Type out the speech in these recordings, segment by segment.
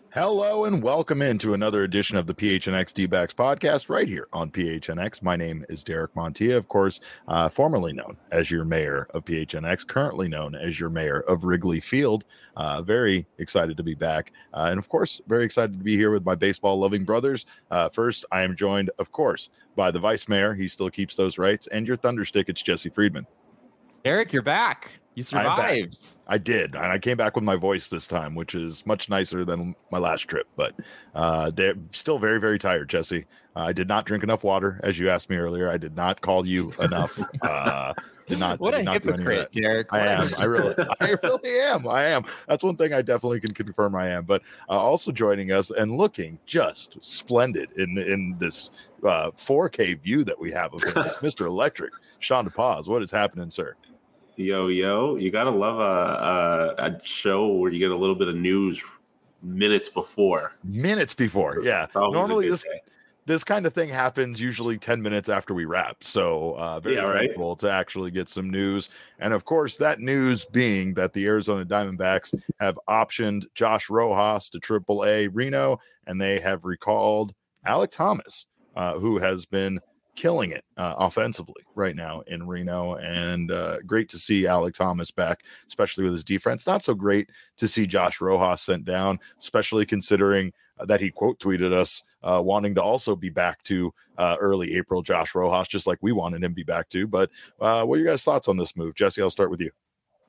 Hello and welcome into another edition of the PHNX D-backs podcast right here on PHNX. My name is Derek Montilla, of course, formerly known as your mayor of PHNX, currently known as your mayor of Wrigley Field. Very excited to be back. And of course, very excited to be here with my baseball loving brothers. First, I am joined, of course, by the vice mayor. He still keeps those rights. And your thunderstick, it's Jesse Friedman. Eric, you're back. You survived. I did. And I came back with my voice this time, which is much nicer than my last trip. But they're still very, very tired, Jesse. I did not drink enough water, as you asked me earlier. I did not call you enough. What a hypocrite, Derek. I am. I really am. I am. That's one thing I definitely can confirm I am. But also joining us and looking just splendid in this 4K view that we have of him, it's Mr. Electric, Sean DePaz. What is happening, sir? Yo, you gotta love a show where you get a little bit of news minutes before. Yeah. Normally this kind of thing happens usually 10 minutes after we wrap. So very thankful to actually get some news. And of course, that news being that the Arizona Diamondbacks have optioned Josh Rojas to AAA Reno, and they have recalled Alek Thomas, who has been killing it offensively right now in Reno, and great to see Alek Thomas back, especially with his defense. Not so great to see Josh Rojas sent down, especially considering that he quote tweeted us wanting to also be back to early April Josh Rojas, just like we wanted him to be back to. But what are your guys' thoughts on this move? Jesse, I'll start with you.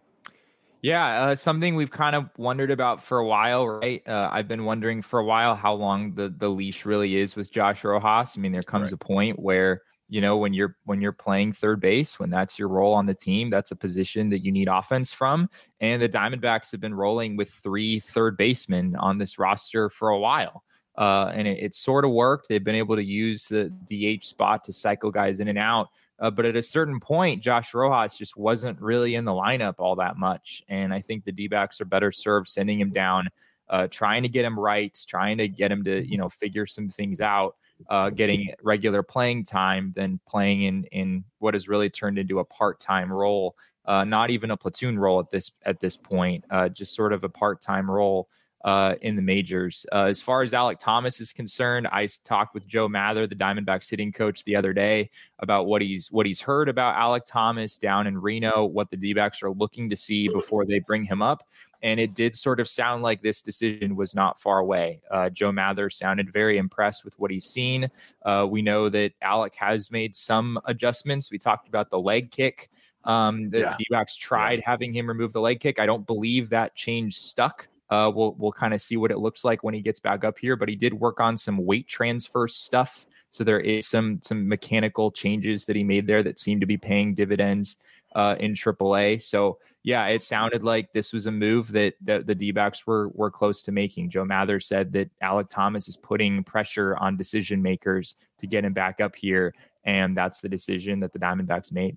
Yeah, something we've kind of wondered about for a while, right? I've been wondering for a while how long the leash really is with Josh Rojas. I mean, there comes a point where, you know, when you're playing third base, when that's your role on the team, that's a position that you need offense from. And the Diamondbacks have been rolling with 3 third basemen on this roster for a while. And it sort of worked. They've been able to use the DH spot to cycle guys in and out. But at a certain point, Josh Rojas just wasn't really in the lineup all that much. And I think the D-backs are better served sending him down, trying to get him right, trying to get him to, figure some things out, getting regular playing time than playing in what has really turned into a part-time role, not even a platoon role at this point, just sort of a part-time role in the majors. As far as Alek Thomas is concerned, I talked with Joe Mather, the Diamondbacks hitting coach, the other day about what he's heard about Alek Thomas down in Reno, what the D-backs are looking to see before they bring him up. And it did sort of sound like this decision was not far away. Joe Mather sounded very impressed with what he's seen. We know that Alek has made some adjustments. We talked about the leg kick. The D-backs tried having him remove the leg kick. I don't believe that change stuck. We'll kind of see what it looks like when he gets back up here, but he did work on some weight transfer stuff. So there is some mechanical changes that he made there that seem to be paying dividends in AAA. So yeah, it sounded like this was a move that the D-backs were close to making. Joe Mather said that Alek Thomas is putting pressure on decision makers to get him back up here. And that's the decision that the Diamondbacks made.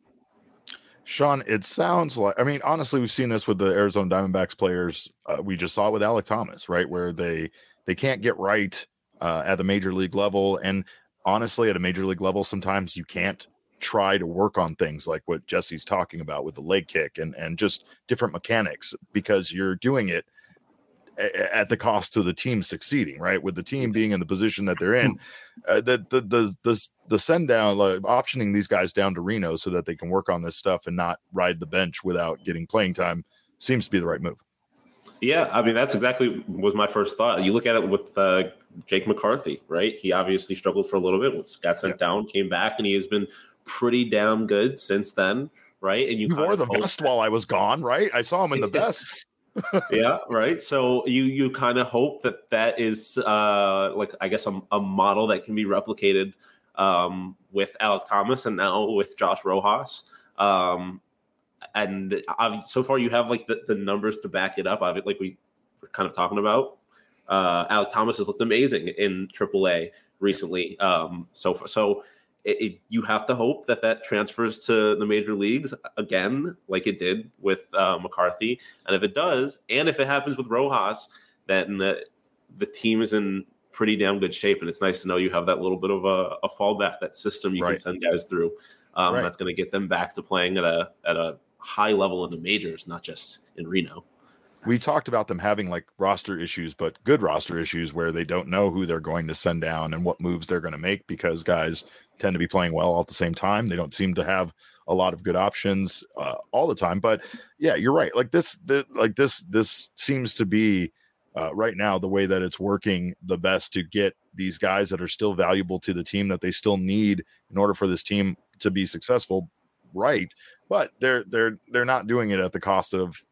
Sean, it sounds like, I mean, honestly, we've seen this with the Arizona Diamondbacks players. We just saw it with Alek Thomas, right? Where they can't get right at the major league level. And honestly, at a major league level, sometimes you can't try to work on things like what Jesse's talking about with the leg kick and just different mechanics, because you're doing it at the cost to the team succeeding, right? With the team being in the position that they're in, the send down, like, optioning these guys down to Reno so that they can work on this stuff and not ride the bench without getting playing time seems to be the right move. Yeah, I mean, that's exactly was my first thought. You look at it with Jake McCarthy, right? He obviously struggled for a little bit, got sent down, came back, and he has been pretty damn good since then, right? And you wore the vest while I was gone, right? I saw him in the vest. Yeah, right. So you kind of hope that is like, I guess, a model that can be replicated with Alek Thomas and now with Josh Rojas. And so far you have like the numbers to back it up. Like we were kind of talking about, Alek Thomas has looked amazing in AAA recently. So you have to hope that transfers to the major leagues again, like it did with McCarthy. And if it does, and if it happens with Rojas, then the team is in pretty damn good shape. And it's nice to know you have that little bit of a fallback, that system you can send guys through. That's going to get them back to playing at a high level in the majors, not just in Reno. we talked about them having like roster issues, but good roster issues where they don't know who they're going to send down and what moves they're going to make because guys tend to be playing well all at the same time. They don't seem to have a lot of good options all the time. But yeah, you're right. Like this seems to be right now the way that it's working the best to get these guys that are still valuable to the team that they still need in order for this team to be successful. Right. But they're not doing it at the cost of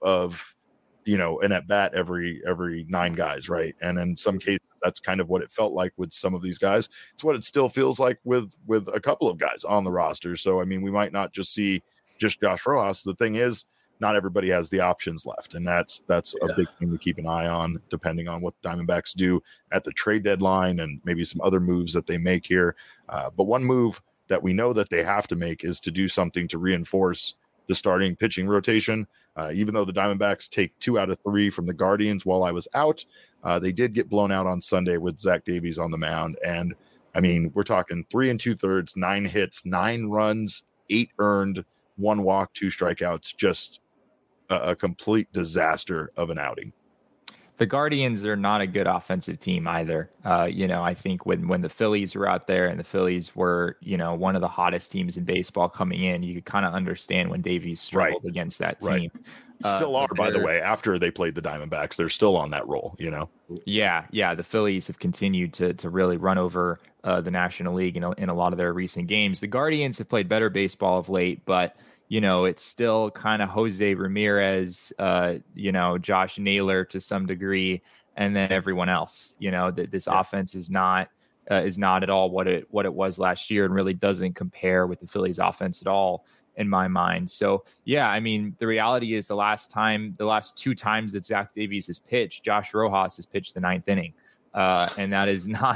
an at bat every 9 guys. Right. And in some cases, that's kind of what it felt like with some of these guys. It's what it still feels like with a couple of guys on the roster. So, I mean, we might not just see just Josh Rojas. The thing is, not everybody has the options left. And that's a big thing to keep an eye on, depending on what the Diamondbacks do at the trade deadline and maybe some other moves that they make here. But one move that we know that they have to make is to do something to reinforce the starting pitching rotation. Even though the Diamondbacks take 2 out of 3 from the Guardians while I was out, they did get blown out on Sunday with Zach Davies on the mound. And I mean, we're talking 3 2/3, 9 hits, 9 runs, 8 earned, 1 walk, 2 strikeouts, just a complete disaster of an outing. The Guardians are not a good offensive team either. I think when the Phillies were out there and the Phillies were, one of the hottest teams in baseball coming in, you could kind of understand when Davies struggled against that team. Right. Still are, by the way, after they played the Diamondbacks, they're still on that roll, Yeah. The Phillies have continued to really run over the National League in a lot of their recent games. The Guardians have played better baseball of late, but it's still kind of Jose Ramirez, Josh Naylor to some degree, and then everyone else. This offense is not at all what it was last year, and really doesn't compare with the Phillies offense at all in my mind. So yeah, I mean, the reality is the last 2 times that Zach Davies has pitched, Josh Rojas has pitched the 9th inning. And that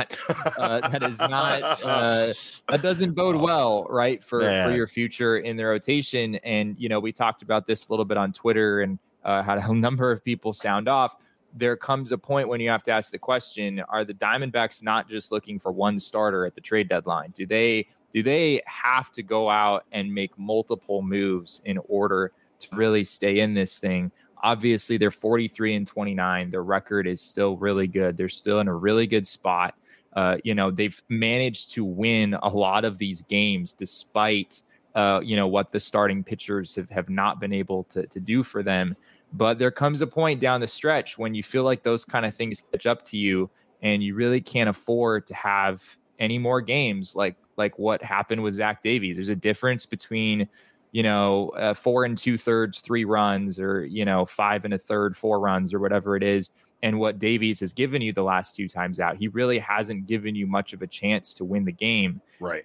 doesn't bode well, right, for your future in the rotation. And we talked about this a little bit on Twitter and had a number of people sound off. There comes a point when you have to ask the question: are the Diamondbacks not just looking for one starter at the trade deadline? Do they have to go out and make multiple moves in order to really stay in this thing? Obviously, they're 43-29. Their record is still really good. They're still in a really good spot. They've managed to win a lot of these games despite, what the starting pitchers have not been able to do for them. But there comes a point down the stretch when you feel like those kind of things catch up to you and you really can't afford to have any more games like what happened with Zach Davies. There's a difference between 4 2/3, 3 runs, or 5 1/3, 4 runs, or whatever it is, and what Davies has given you the last 2 times out. He really hasn't given you much of a chance to win the game. Right.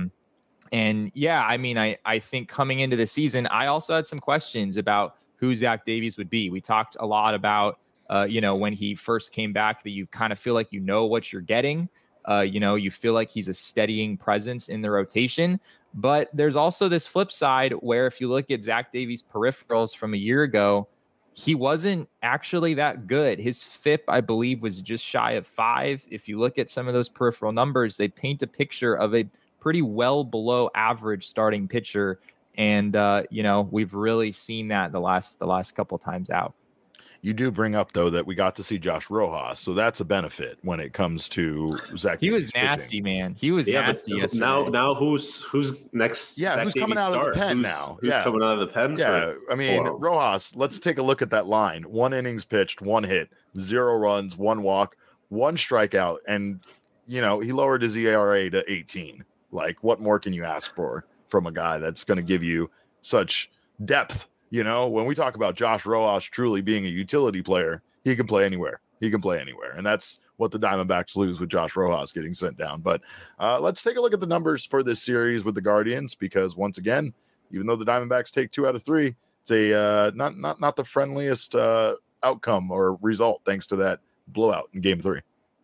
And yeah, I mean, I think coming into the season, I also had some questions about who Zach Davies would be. We talked a lot about, when he first came back, that you kind of feel like what you're getting. You feel like he's a steadying presence in the rotation. But there's also this flip side where if you look at Zach Davies' peripherals from a year ago, he wasn't actually that good. His FIP, I believe, was just shy of 5. If you look at some of those peripheral numbers, they paint a picture of a pretty well below average starting pitcher. And, we've really seen that the last couple times out. You do bring up, though, that we got to see Josh Rojas, so that's a benefit when it comes to Zach. He was nasty, pitching. Man. He was nasty yesterday. Now who's next? Yeah, Zach who's coming out of the pen now? Who's coming out of the pen? Yeah, I mean, Rojas, let's take a look at that line. 1 innings pitched, 1 hit, 0 runs, 1 walk, 1 strikeout, and, he lowered his ERA to 18. Like, what more can you ask for from a guy that's going to give you such depth? When we talk about Josh Rojas truly being a utility player, he can play anywhere. And that's what the Diamondbacks lose with Josh Rojas getting sent down. But let's take a look at the numbers for this series with the Guardians, because once again, even though the Diamondbacks take 2 out of 3, it's a not the friendliest outcome or result thanks to that blowout in Game 3.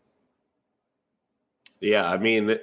Yeah, I mean,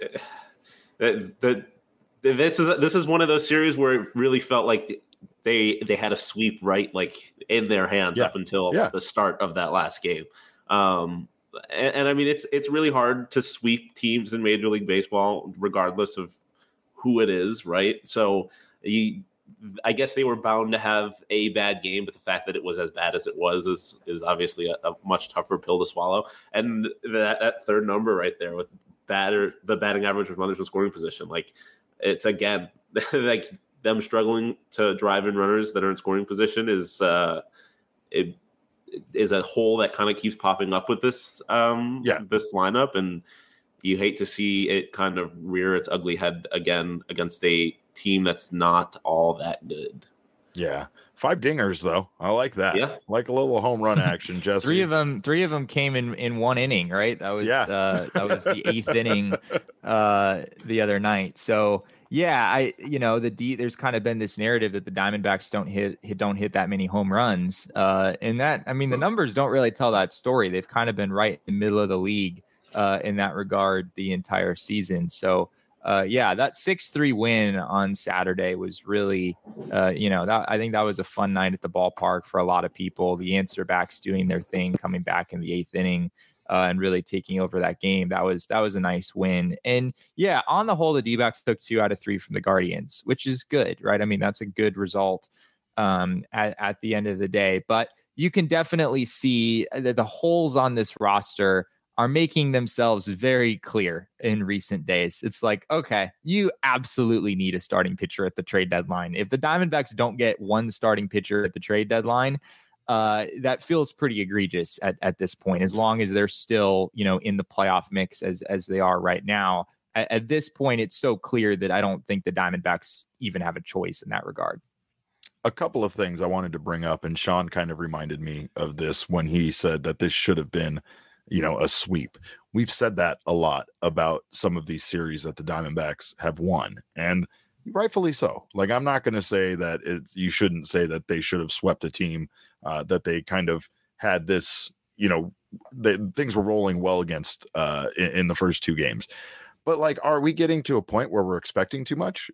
this is one of those series where it really felt like they had a sweep like in their hands up until the start of that last game. And I mean, it's really hard to sweep teams in Major League Baseball, regardless of who it is, right? So I guess they were bound to have a bad game, but the fact that it was as bad as it was is obviously a much tougher pill to swallow. And that third number right there with the batting average with runners in scoring position, like it's again like them struggling to drive in runners that are in scoring position is it is a hole that kind of keeps popping up with this this lineup, and you hate to see it kind of rear its ugly head again against a team that's not all that good. Yeah. 5 dingers though. I like that. Yeah. Like a little home run action, Jesse. Three of them came in one inning, right? That was that was the 8th inning the other night. So yeah, there's kind of been this narrative that the Diamondbacks don't hit that many home runs. And that, I mean, the numbers don't really tell that story. They've kind of been right in the middle of the league in that regard the entire season. So that 6-3 win on Saturday was really, I think that was a fun night at the ballpark for a lot of people. The answer backs doing their thing, coming back in the 8th inning and really taking over that game. That was a nice win. And yeah, on the whole, the D-backs took 2 out of 3 from the Guardians, which is good, right? I mean, that's a good result at the end of the day. But you can definitely see that the holes on this roster are making themselves very clear in recent days. It's like, okay, you absolutely need a starting pitcher at the trade deadline. If the Diamondbacks don't get one starting pitcher at the trade deadline, that feels pretty egregious at this point, as long as they're still, in the playoff mix as they are right now. At this point, it's so clear that I don't think the Diamondbacks even have a choice in that regard. A couple of things I wanted to bring up, and Sean kind of reminded me of this when he said that this should have been a sweep. We've said that a lot about some of these series that the Diamondbacks have won, and rightfully so. Like, I'm not going to say that you shouldn't say that they should have swept a team that they kind of had this, things were rolling well against in the first 2 games. But like, are we getting to a point where we're expecting too much?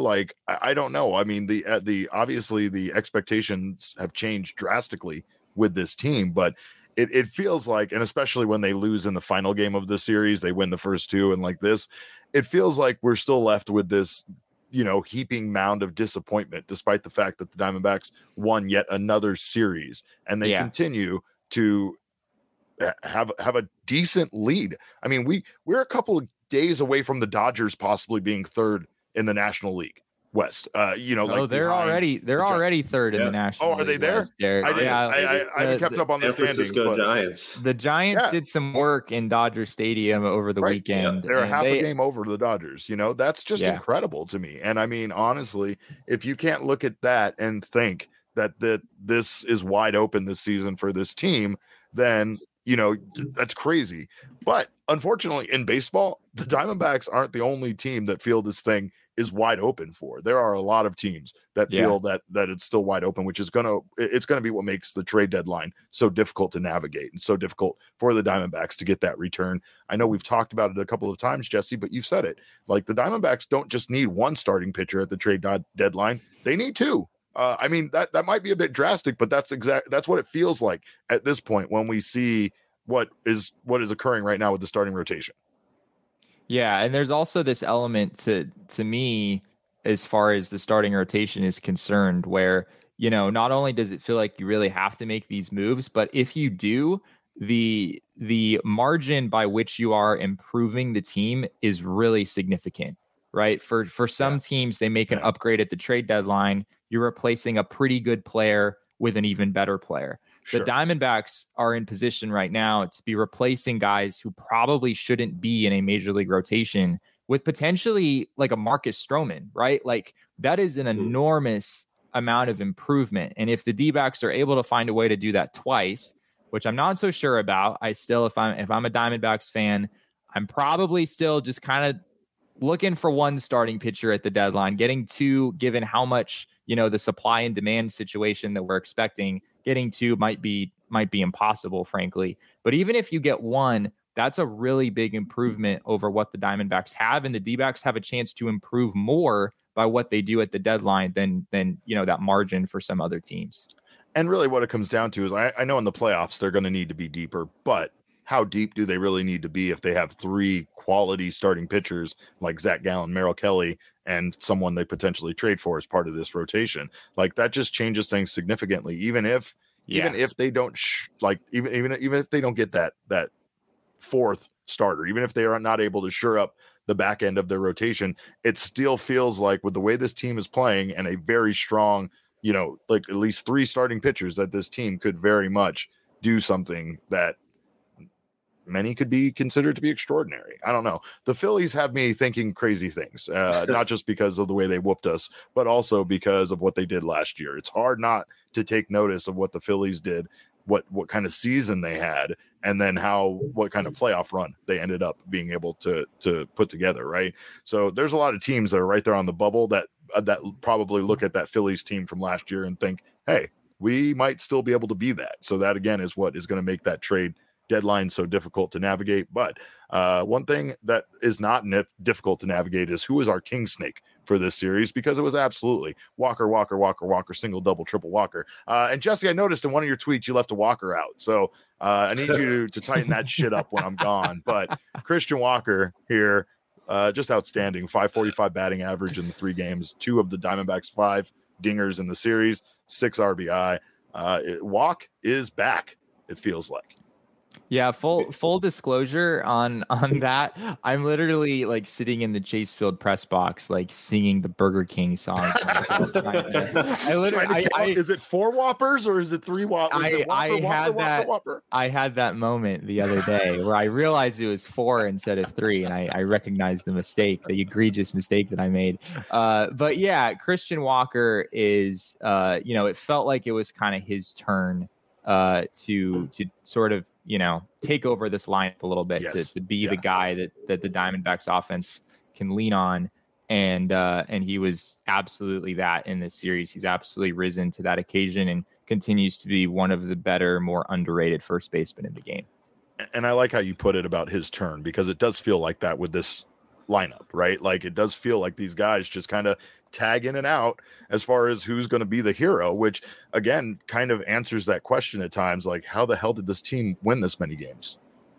I don't know. I mean, obviously the expectations have changed drastically with this team, but it feels like, and especially when they lose in the final game of the series, they win the first 2, and like this, it feels like we're still left with this, heaping mound of disappointment, despite the fact that the Diamondbacks won yet another series, and they continue to have a decent lead. I mean, we're a couple of days away from the Dodgers possibly being 3rd in the National League West. They're already 3rd in the National League. Oh, are they there? West, I haven't kept up on the standings. Giants. The Giants did some work in Dodger Stadium over the weekend. Yeah. They're half a game over to the Dodgers. That's just incredible to me. And I mean, honestly, if you can't look at that and think that this is wide open this season for this team, then that's crazy. But unfortunately, in baseball, the Diamondbacks aren't the only team that feel this thing is wide open for. There are a lot of teams that feel that it's still wide open, which is it's gonna be what makes the trade deadline so difficult to navigate and so difficult for the Diamondbacks to get that return. I know we've talked about it a couple of times, Jesse, but you've said it. Like, the Diamondbacks don't just need one starting pitcher at the trade deadline; they need 2. I mean, that might be a bit drastic, but that's what it feels like at this point when we see what is occurring right now with the starting rotation. Yeah, and there's also this element to me as far as the starting rotation is concerned, where not only does it feel like you really have to make these moves, but if you do, the margin by which you are improving the team is really significant, right? For some teams, they make an upgrade at the trade deadline. You're replacing a pretty good player with an even better player. The Diamondbacks are in position right now to be replacing guys who probably shouldn't be in a major league rotation with potentially like a Marcus Stroman, right? Like, that is an enormous amount of improvement. And if the D-backs are able to find a way to do that twice, which I'm not so sure about, if I'm a Diamondbacks fan, I'm probably still just kind of looking for one starting pitcher at the deadline. Getting 2, given how much, the supply and demand situation that we're expecting, getting 2 might be impossible, frankly. But even if you get 1, that's a really big improvement over what the Diamondbacks have, and the D-backs have a chance to improve more by what they do at the deadline than that margin for some other teams. And really what it comes down to is, I know in the playoffs they're going to need to be deeper, but how deep do they really need to be if they have 3 quality starting pitchers like Zach Gallen, Merrill Kelly, and someone they potentially trade for as part of this rotation. Like that just changes things significantly, even if they don't even if they don't get that fourth starter, even if they are not able to shore up the back end of their rotation, it still feels like with the way this team is playing and a very strong, like at least 3 starting pitchers, that this team could very much do something that many could be considered to be extraordinary. I don't know. The Phillies have me thinking crazy things, not just because of the way they whooped us, but also because of what they did last year. It's hard not to take notice of what the Phillies did, what kind of season they had, and then what kind of playoff run they ended up being able to put together, right? So there's a lot of teams that are right there on the bubble that probably look at that Phillies team from last year and think, hey, we might still be able to be that. So that, again, is what is going to make that trade deadline so difficult to navigate. But one thing that is not difficult to navigate is who is our king snake for this series, because it was absolutely Walker, single, double, triple Walker. And Jesse, I noticed in one of your tweets you left a Walker out, so I need you to tighten that shit up when I'm gone. But Christian Walker here, just outstanding. 545 batting average in the 3 games, 2 of the Diamondbacks' 5 dingers in the series, 6 RBI. Walk is back, it feels like. Yeah, full disclosure on that. I'm literally like sitting in the Chase Field press box, like singing the Burger King song. Is it 4 Whoppers or is it 3 Whoppers? I had that moment the other day where I realized it was 4 instead of 3, and I recognized the egregious mistake that I made. But yeah, Christian Walker is, it felt like it was kind of his turn to sort of, take over this lineup a little bit, yes. to be the guy that the Diamondbacks offense can lean on. And he was absolutely that in this series. He's absolutely risen to that occasion and continues to be one of the better, more underrated first basemen in the game. And I like how you put it about his turn, because it does feel like that with this lineup, right? Like it does feel like these guys just kind of tag in and out as far as who's going to be the hero, which again kind of answers that question at times, like how the hell did this team win this many games?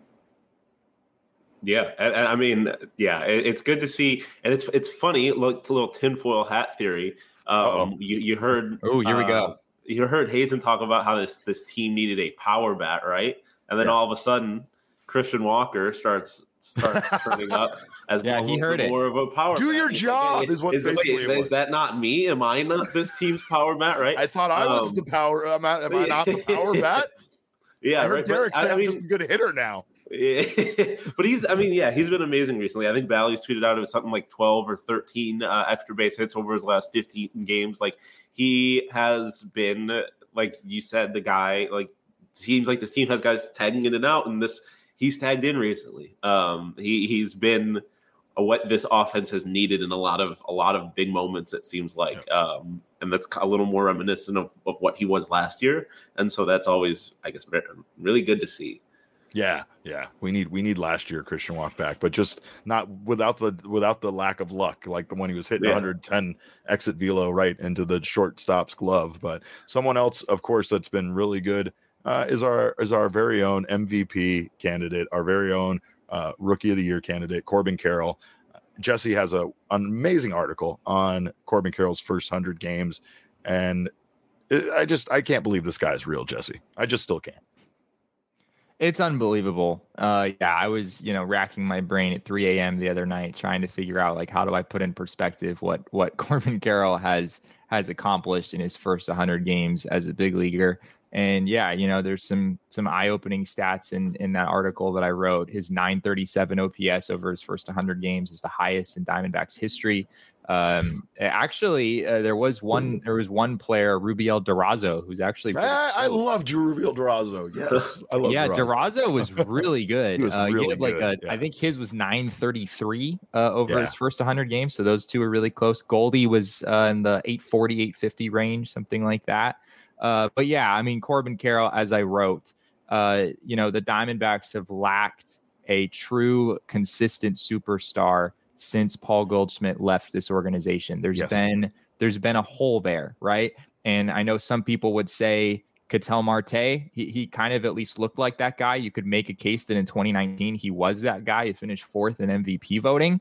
Yeah, I mean, it's good to see, and it's funny. Look, little tinfoil hat theory. You heard? Oh, here we go. You heard Hazen talk about how this team needed a power bat, right? And then all of a sudden, Christian Walker starts turning up. He heard it. More of a power. Do your job is what basically it was. Is that not me? Am I not this team's power bat? Right? I thought I was the power. Am I not the power bat? Yeah, I heard Derek say I'm just a good hitter now. Yeah. But he's been amazing recently. I think Bally's tweeted out it was something like 12 or 13 extra base hits over his last 15 games. Like he has been, like you said, the guy. Like seems like this team has guys tagging in and out, and he's tagged in recently. He's been what this offense has needed in a lot of big moments, it seems like. And that's a little more reminiscent of what he was last year. And so that's always, I guess, really good to see. Yeah. We need last year Christian Walker back, but just not without the lack of luck, like the one he was hitting 110 exit velo right into the shortstop's glove. But someone else, of course, that's been really good is our very own MVP candidate, our very own Rookie of the Year candidate, Corbin Carroll. Jesse has an amazing article on Corbin Carroll's first 100 games, and I can't believe this guy's real, Jesse. I just still can't. It's unbelievable. I was, racking my brain at 3 a.m. the other night trying to figure out, like, how do I put in perspective what Corbin Carroll has accomplished in his first 100 games as a big leaguer. And there's some eye-opening stats in that article that I wrote. His 937 OPS over his first 100 games is the highest in Diamondbacks history. There was one player, Rubiel Durazo, who's actually I love Rubiel Durazo. Yes, I love. Yeah, Durazo was really good. He was really good. I think his was 933 over his first 100 games. So those two are really close. Goldie was in the 840, 850 range, something like that. But yeah, I mean, Corbin Carroll, as I wrote, the Diamondbacks have lacked a true consistent superstar since Paul Goldschmidt left this organization. There's been a hole there, right? And I know some people would say Ketel Marte, he kind of at least looked like that guy. You could make a case that in 2019 he was that guy. He finished 4th in MVP voting.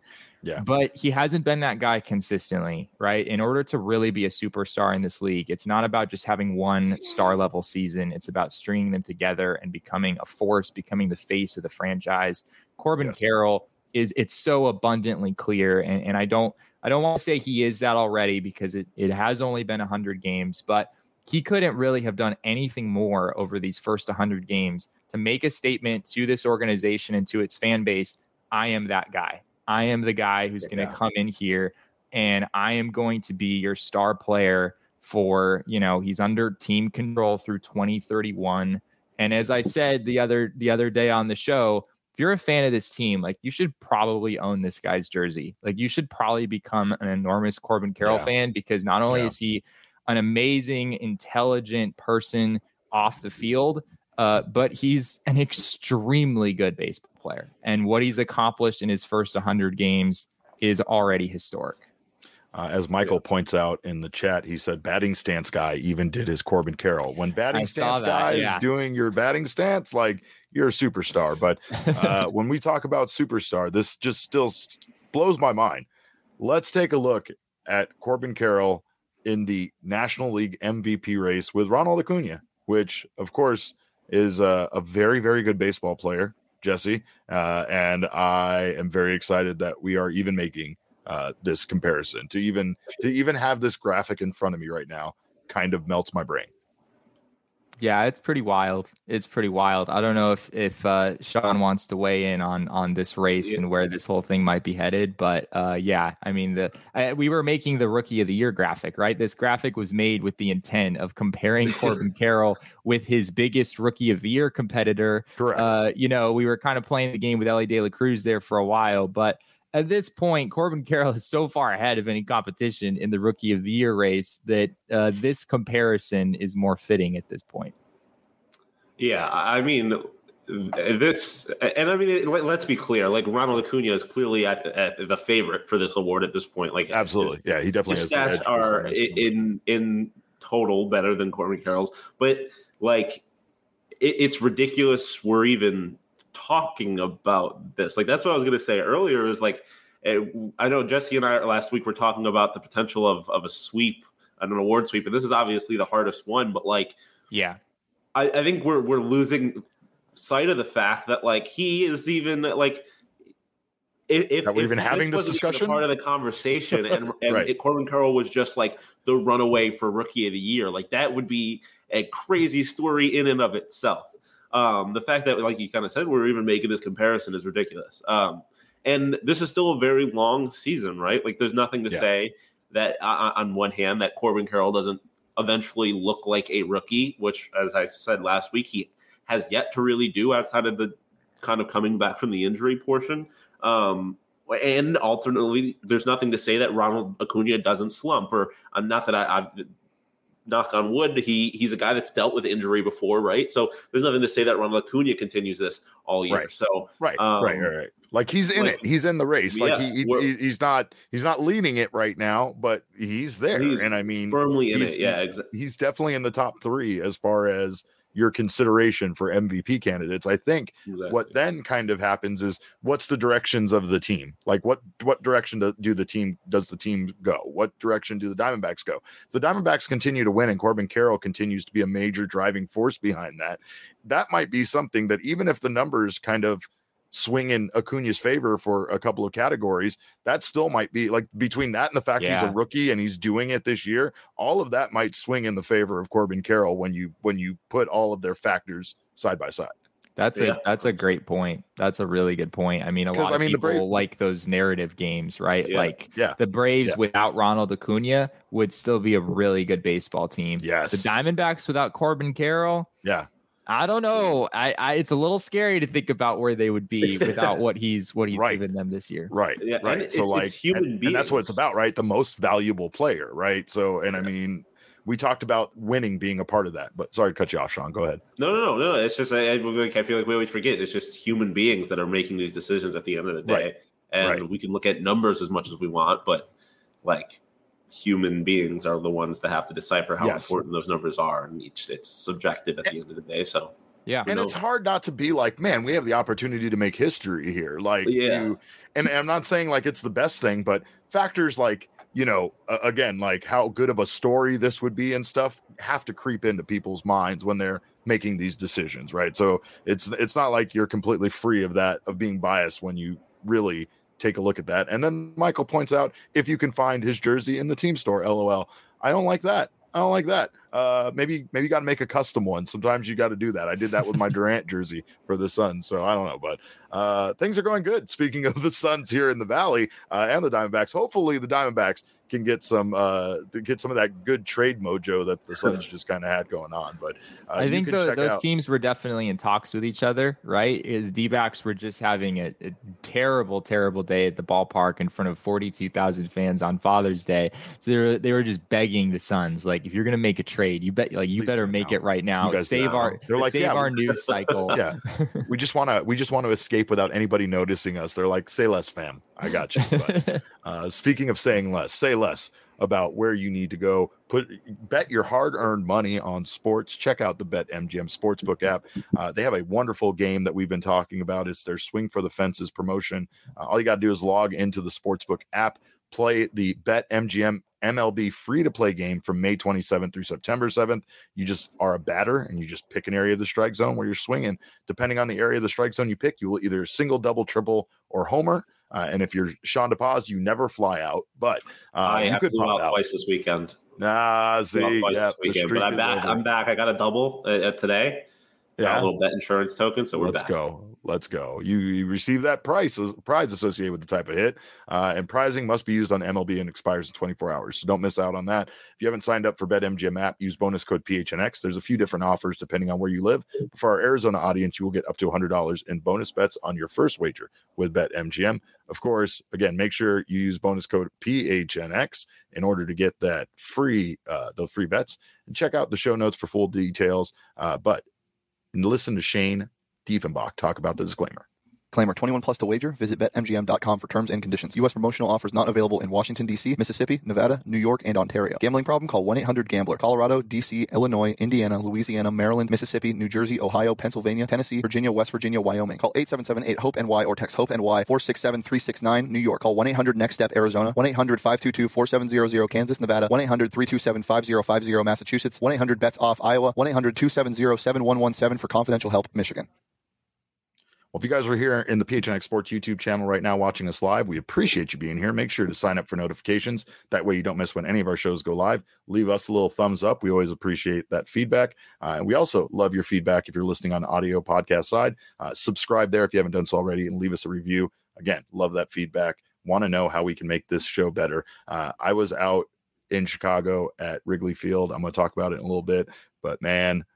Yeah. But he hasn't been that guy consistently, right? In order to really be a superstar in this league, it's not about just having one star level season. It's about stringing them together and becoming a force, becoming the face of the franchise. Corbin Carroll it's so abundantly clear. And I don't want to say he is that already, because it has only been 100 games, but he couldn't really have done anything more over these first 100 games to make a statement to this organization and to its fan base. I am that guy. I am the guy who's going to come in here and I am going to be your star player for, he's under team control through 2031. And as I said the other day on the show, if you're a fan of this team, like, you should probably own this guy's jersey. Like, you should probably become an enormous Corbin Carroll fan, because not only is he an amazing, intelligent person off the field, but he's an extremely good baseball player. And what he's accomplished in his first 100 games is already historic. As Michael points out in the chat, he said batting stance guy even did his Corbin Carroll. When batting stance guy is doing your batting stance, like, you're a superstar. But when we talk about superstar, this just still blows my mind. Let's take a look at Corbin Carroll in the National League MVP race with Ronald Acuna, which, of course, is a very, very good baseball player, Jesse. And I am very excited that we are even making this comparison. To even have this graphic in front of me right now kind of melts my brain. Yeah, it's pretty wild. I don't know if Sean wants to weigh in on this race and where this whole thing might be headed, but I mean, we were making the Rookie of the Year graphic, right? This graphic was made with the intent of comparing Corbin Carroll with his biggest Rookie of the Year competitor. Correct. We were kind of playing the game with Elly De La Cruz there for a while, but at this point, Corbin Carroll is so far ahead of any competition in the Rookie of the Year race that this comparison is more fitting at this point. Yeah, I mean, let's be clear. Like, Ronald Acuna is clearly at the favorite for this award at this point. Like, absolutely, he definitely has. Stats are in total better than Corbin Carroll's, but like, it's ridiculous we're even talking about this. Like, that's what I was going to say earlier, is like, I know Jesse and I last week were talking about the potential of a sweep, an award sweep, and this is obviously the hardest one, but like, I think we're losing sight of the fact that, like, he is even like, if we're even having this discussion, part of the conversation, and right. Corbin Carroll was just like the runaway for Rookie of the Year, like, that would be a crazy story in and of itself. The fact that, like you kind of said, we're even making this comparison is ridiculous. And this is still a very long season, right? Like, there's nothing to say that on one hand that Corbin Carroll doesn't eventually look like a rookie, which, as I said last week, he has yet to really do outside of the kind of coming back from the injury portion. And alternately, there's nothing to say that Ronald Acuna doesn't slump, or not that I knock on wood, he's a guy that's dealt with injury before, right? So there's nothing to say that Ronald Acuna continues this all year. Right. So right. Like, he's in it. He's in the race. Like, he's not leading it right now, but he's there. And I mean, firmly in it. Yeah, exactly. He's definitely in the top 3 as far as your consideration for MVP candidates. I think what then kind of happens is, what's the directions of the team? Like, what direction does the team go? What direction do the Diamondbacks go? If the Diamondbacks continue to win and Corbin Carroll continues to be a major driving force behind that, that might be something that, even if the numbers kind of swing in Acuna's favor for a couple of categories, that still might be, like, between that and the fact he's a rookie and he's doing it this year, all of that might swing in the favor of Corbin Carroll when you put all of their factors side by side. That's a great point. That's a really good point. I mean, a lot of people like those narrative games, right? The Braves without Ronald Acuna would still be a really good baseball team. Yes. The Diamondbacks without Corbin Carroll. Yeah. I don't know. It's a little scary to think about where they would be without what he's given them this year. Right. Yeah, right. So it's human beings. And that's what it's about, right? The most valuable player, right? So, and I mean, we talked about winning being a part of that, but sorry to cut you off, Sean. Go ahead. No. It's just, I feel like we always forget. It's just human beings that are making these decisions at the end of the day. Right. And we can look at numbers as much as we want, but, like, human beings are the ones that have to decipher how important those numbers are, and it's subjective at the end of the day. So Yeah. And it's hard not to be like, man, we have the opportunity to make history here. Like, and I'm not saying like it's the best thing, but factors like, again, like how good of a story this would be and stuff have to creep into people's minds when they're making these decisions, right? So it's not like you're completely free of that, of being biased when you really take a look at that. And then Michael points out, if you can find his jersey in the team store, LOL. I don't like that. Maybe you got to make a custom one. Sometimes you got to do that. I did that with my Durant jersey for the Suns. So I don't know, but things are going good. Speaking of the Suns here in the Valley and the Diamondbacks, hopefully the Diamondbacks can get some of that good trade mojo that the Suns just kind of had going on. But I think those teams were definitely in talks with each other, right? D-backs were just having a terrible, terrible day at the ballpark in front of 42,000 fans on Father's Day. So they were just begging the Suns, like, if you're gonna make a trade, you better make it right now. Save our news cycle. Yeah, we just want to escape without anybody noticing us. They're like, say less, fam. I got you. But, speaking of saying less, say less about where you need to go. Bet your hard-earned money on sports. Check out the BetMGM Sportsbook app. They have a wonderful game that we've been talking about. It's their Swing for the Fences promotion. All you got to do is log into the Sportsbook app, play the BetMGM MLB free-to-play game from May 27th through September 7th. You just are a batter, and you just pick an area of the strike zone where you're swinging. Depending on the area of the strike zone you pick, you will either single, double, triple, or homer. And if you're Sean DePaz, you never fly out. But I you could pop out twice this weekend. See, but I'm back. I'm back. I got a double today. Yeah, a little bet insurance token. So let's go. You receive that prize associated with the type of hit, and prizing must be used on MLB and expires in 24 hours. So don't miss out on that. If you haven't signed up for BetMGM app, use bonus code PHNX. There's a few different offers depending on where you live. For our Arizona audience, you will get up to $100 in bonus bets on your first wager with BetMGM. Of course, again, make sure you use bonus code PHNX in order to get that free bets. And check out the show notes for full details. But listen to Shane Diefenbach talk about the disclaimer. Disclaimer, 21 plus to wager. Visit BetMGM.com for terms and conditions. U.S. promotional offers not available in Washington, D.C., Mississippi, Nevada, New York, and Ontario. Gambling problem? Call 1-800-GAMBLER. Colorado, D.C., Illinois, Indiana, Louisiana, Maryland, Mississippi, New Jersey, Ohio, Pennsylvania, Tennessee, Virginia, West Virginia, Wyoming. Call 877-8-HOPE-NY or text HOPE-NY 467-369. New York. Call 1-800-NEXT-STEP, Arizona. 1-800-522-4700, Kansas, Nevada. 1-800-327-5050, Massachusetts. 1-800-BETS-OFF, Iowa. 1-800-270-7117 for confidential help, Michigan. Well, if you guys are here in the PHNX Sports YouTube channel right now watching us live, we appreciate you being here. Make sure to sign up for notifications. That way you don't miss when any of our shows go live. Leave us a little thumbs up. We always appreciate that feedback. And we also love your feedback if you're listening on audio podcast side. Subscribe there if you haven't done so already and leave us a review. Again, love that feedback. Want to know how we can make this show better. I was out in Chicago at Wrigley Field. I'm going to talk about it in a little bit. But, man,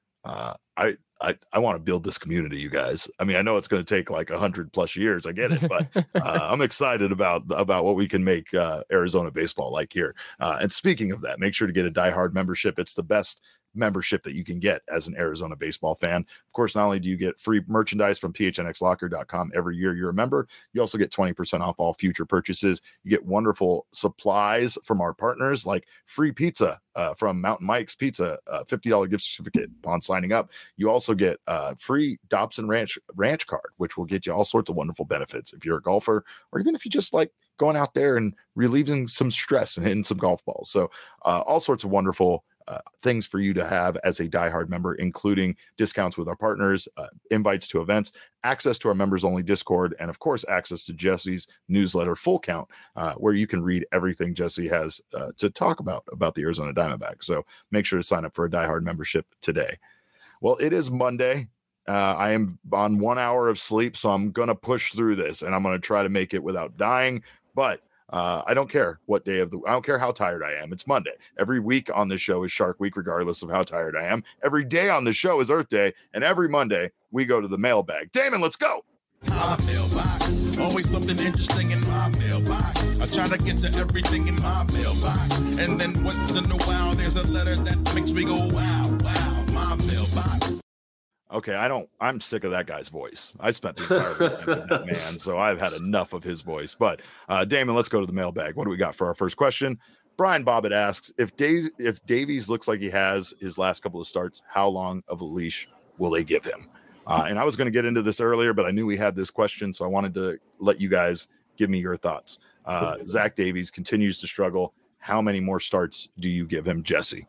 I want to build this community, you guys. I mean, I know it's going to take like 100+ years. I get it, but I'm excited about what we can make Arizona baseball like here. And speaking of that, make sure to get a Die Hard membership. It's the best membership that you can get as an Arizona baseball fan. Of course, not only do you get free merchandise from phnxlocker.com every year you're a member, you also get 20% off all future purchases. You get wonderful supplies from our partners, like free pizza from Mountain Mike's Pizza, $50 gift certificate upon signing up. You also get free Dobson Ranch card, which will get you all sorts of wonderful benefits if you're a golfer, or even if you just like going out there and relieving some stress and hitting some golf balls. So all sorts of wonderful things for you to have as a diehard member, including discounts with our partners, invites to events, access to our members only Discord, and of course, access to Jesse's newsletter, Full Count, where you can read everything Jesse has to talk about the Arizona Diamondbacks. So make sure to sign up for a diehard membership today. Well, it is Monday. I am on 1 hour of sleep, so I'm going to push through this and I'm going to try to make it without dying, but I don't care what day I don't care how tired I am. It's Monday. Every week on this show is Shark Week, regardless of how tired I am. Every day on the show is Earth Day. And every Monday we go to the mailbag. Damon, let's go. My mailbox, always something interesting in my mailbox. I try to get to everything in my mailbox. And then once in a while, there's a letter that makes me go, wow, wow, my mailbox. Okay, I'm sick of that guy's voice. I spent the entire weekend with that man, so I've had enough of his voice. But Damon, let's go to the mailbag. What do we got for our first question? Brian Bobbitt asks, if Davies looks like he has his last couple of starts, how long of a leash will they give him? And I was going to get into this earlier, but I knew we had this question, so I wanted to let you guys give me your thoughts. Zach Davies continues to struggle. How many more starts do you give him, Jesse?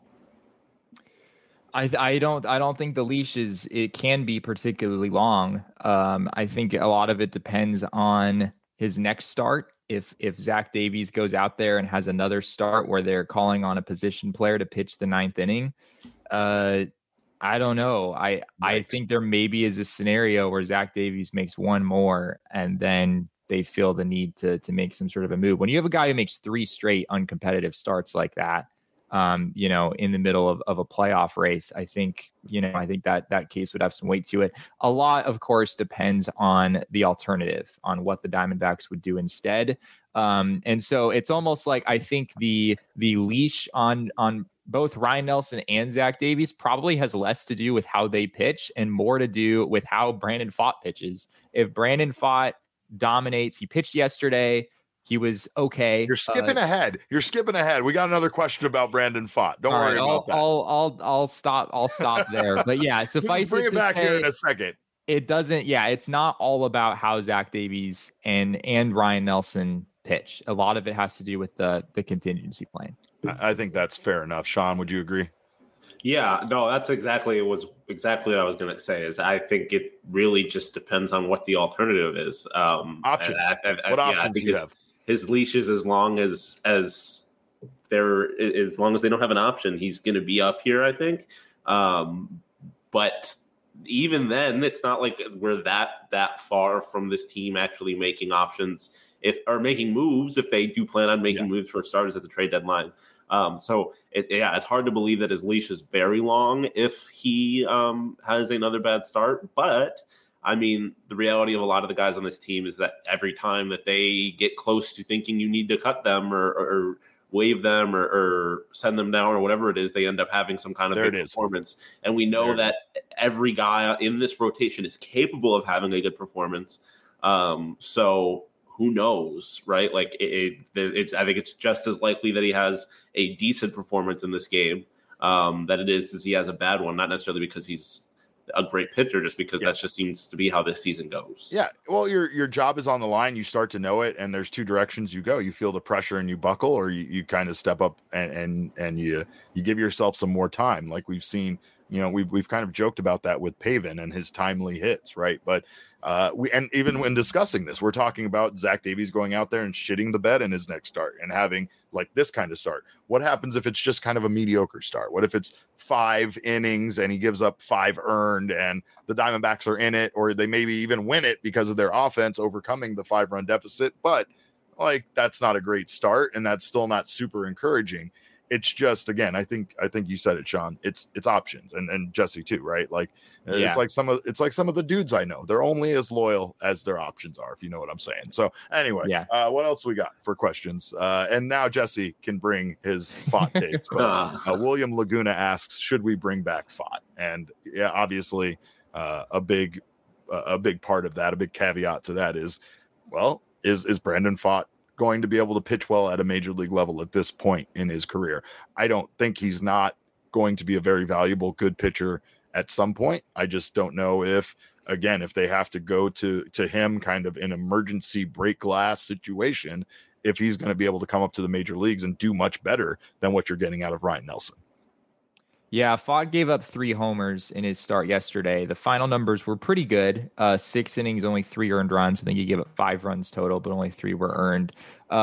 I don't think the leash it can be particularly long. I think a lot of it depends on his next start. If Zach Davies goes out there and has another start where they're calling on a position player to pitch the 9th inning, I don't know. I think there maybe is a scenario where Zach Davies makes one more and then they feel the need to make some sort of a move. When you have a guy who makes 3 straight uncompetitive starts like that, in the middle of a playoff race, I think that case would have some weight to it. A lot, of course, depends on the alternative, on what the Diamondbacks would do instead. And so it's almost like I think the leash on both Ryan Nelson and Zach Davies probably has less to do with how they pitch and more to do with how Brandon Pfaadt pitches. If Brandon Pfaadt dominates, he pitched yesterday, he was okay. You're skipping ahead. We got another question about Brandon Pfaadt. Don't worry about that. I'll stop there. But yeah, suffice bring it back here in a second. It doesn't. Yeah, it's not all about how Zach Davies and Ryan Nelson pitch. A lot of it has to do with the contingency plan. I think that's fair enough. Sean, would you agree? Yeah, no, that's exactly what I was going to say. Is I think it really just depends on what the alternative is. Options. What options do you have? His leash is as long as they don't have an option, he's going to be up here, I think. But even then, it's not like we're that far from this team actually making options or making moves if they do plan on making moves for starters at the trade deadline. So it's hard to believe that his leash is very long if he has another bad start. But I mean, the reality of a lot of the guys on this team is that every time that they get close to thinking you need to cut them or waive them or send them down or whatever it is, they end up having some kind of big performance. And we know that every guy in this rotation is capable of having a good performance. So who knows, right? Like I think it's just as likely that he has a decent performance in this game that it is he has a bad one, not necessarily because he's a great pitcher, just because that just seems to be how this season goes. Yeah. Well, your job is on the line. You start to know it, and there's 2 directions you go. You feel the pressure and you buckle, or you kind of step up and you give yourself some more time. Like we've seen, we've kind of joked about that with Pavin and his timely hits, right? But and even when discussing this, we're talking about Zach Davies going out there and shitting the bed in his next start and having like this kind of start. What happens if it's just kind of a mediocre start? What if it's 5 innings and he gives up 5 earned and the Diamondbacks are in it, or they maybe even win it because of their offense overcoming the 5-run deficit? But like, that's not a great start, and that's still not super encouraging. It's just, again, I think you said it, Sean. It's options, and Jesse too, right? Like it's like some of the dudes I know. They're only as loyal as their options are, if you know what I'm saying. So anyway, what else we got for questions? And now Jesse can bring his Pfaadt takes. William Laguna asks, should we bring back Pfaadt? And yeah, obviously, a big part of that, a big caveat to that is, well, is Brandon Pfaadt going to be able to pitch well at a major league level at this point in his career? I don't think he's not going to be a very valuable, good pitcher at some point. I just don't know if they have to go to him kind of an emergency break glass situation, if he's going to be able to come up to the major leagues and do much better than what you're getting out of Ryan Nelson. Yeah, Pfaadt gave up 3 homers in his start yesterday. The final numbers were pretty good. 6 innings, only 3 earned runs. I think he gave up 5 runs total, but only 3 were earned.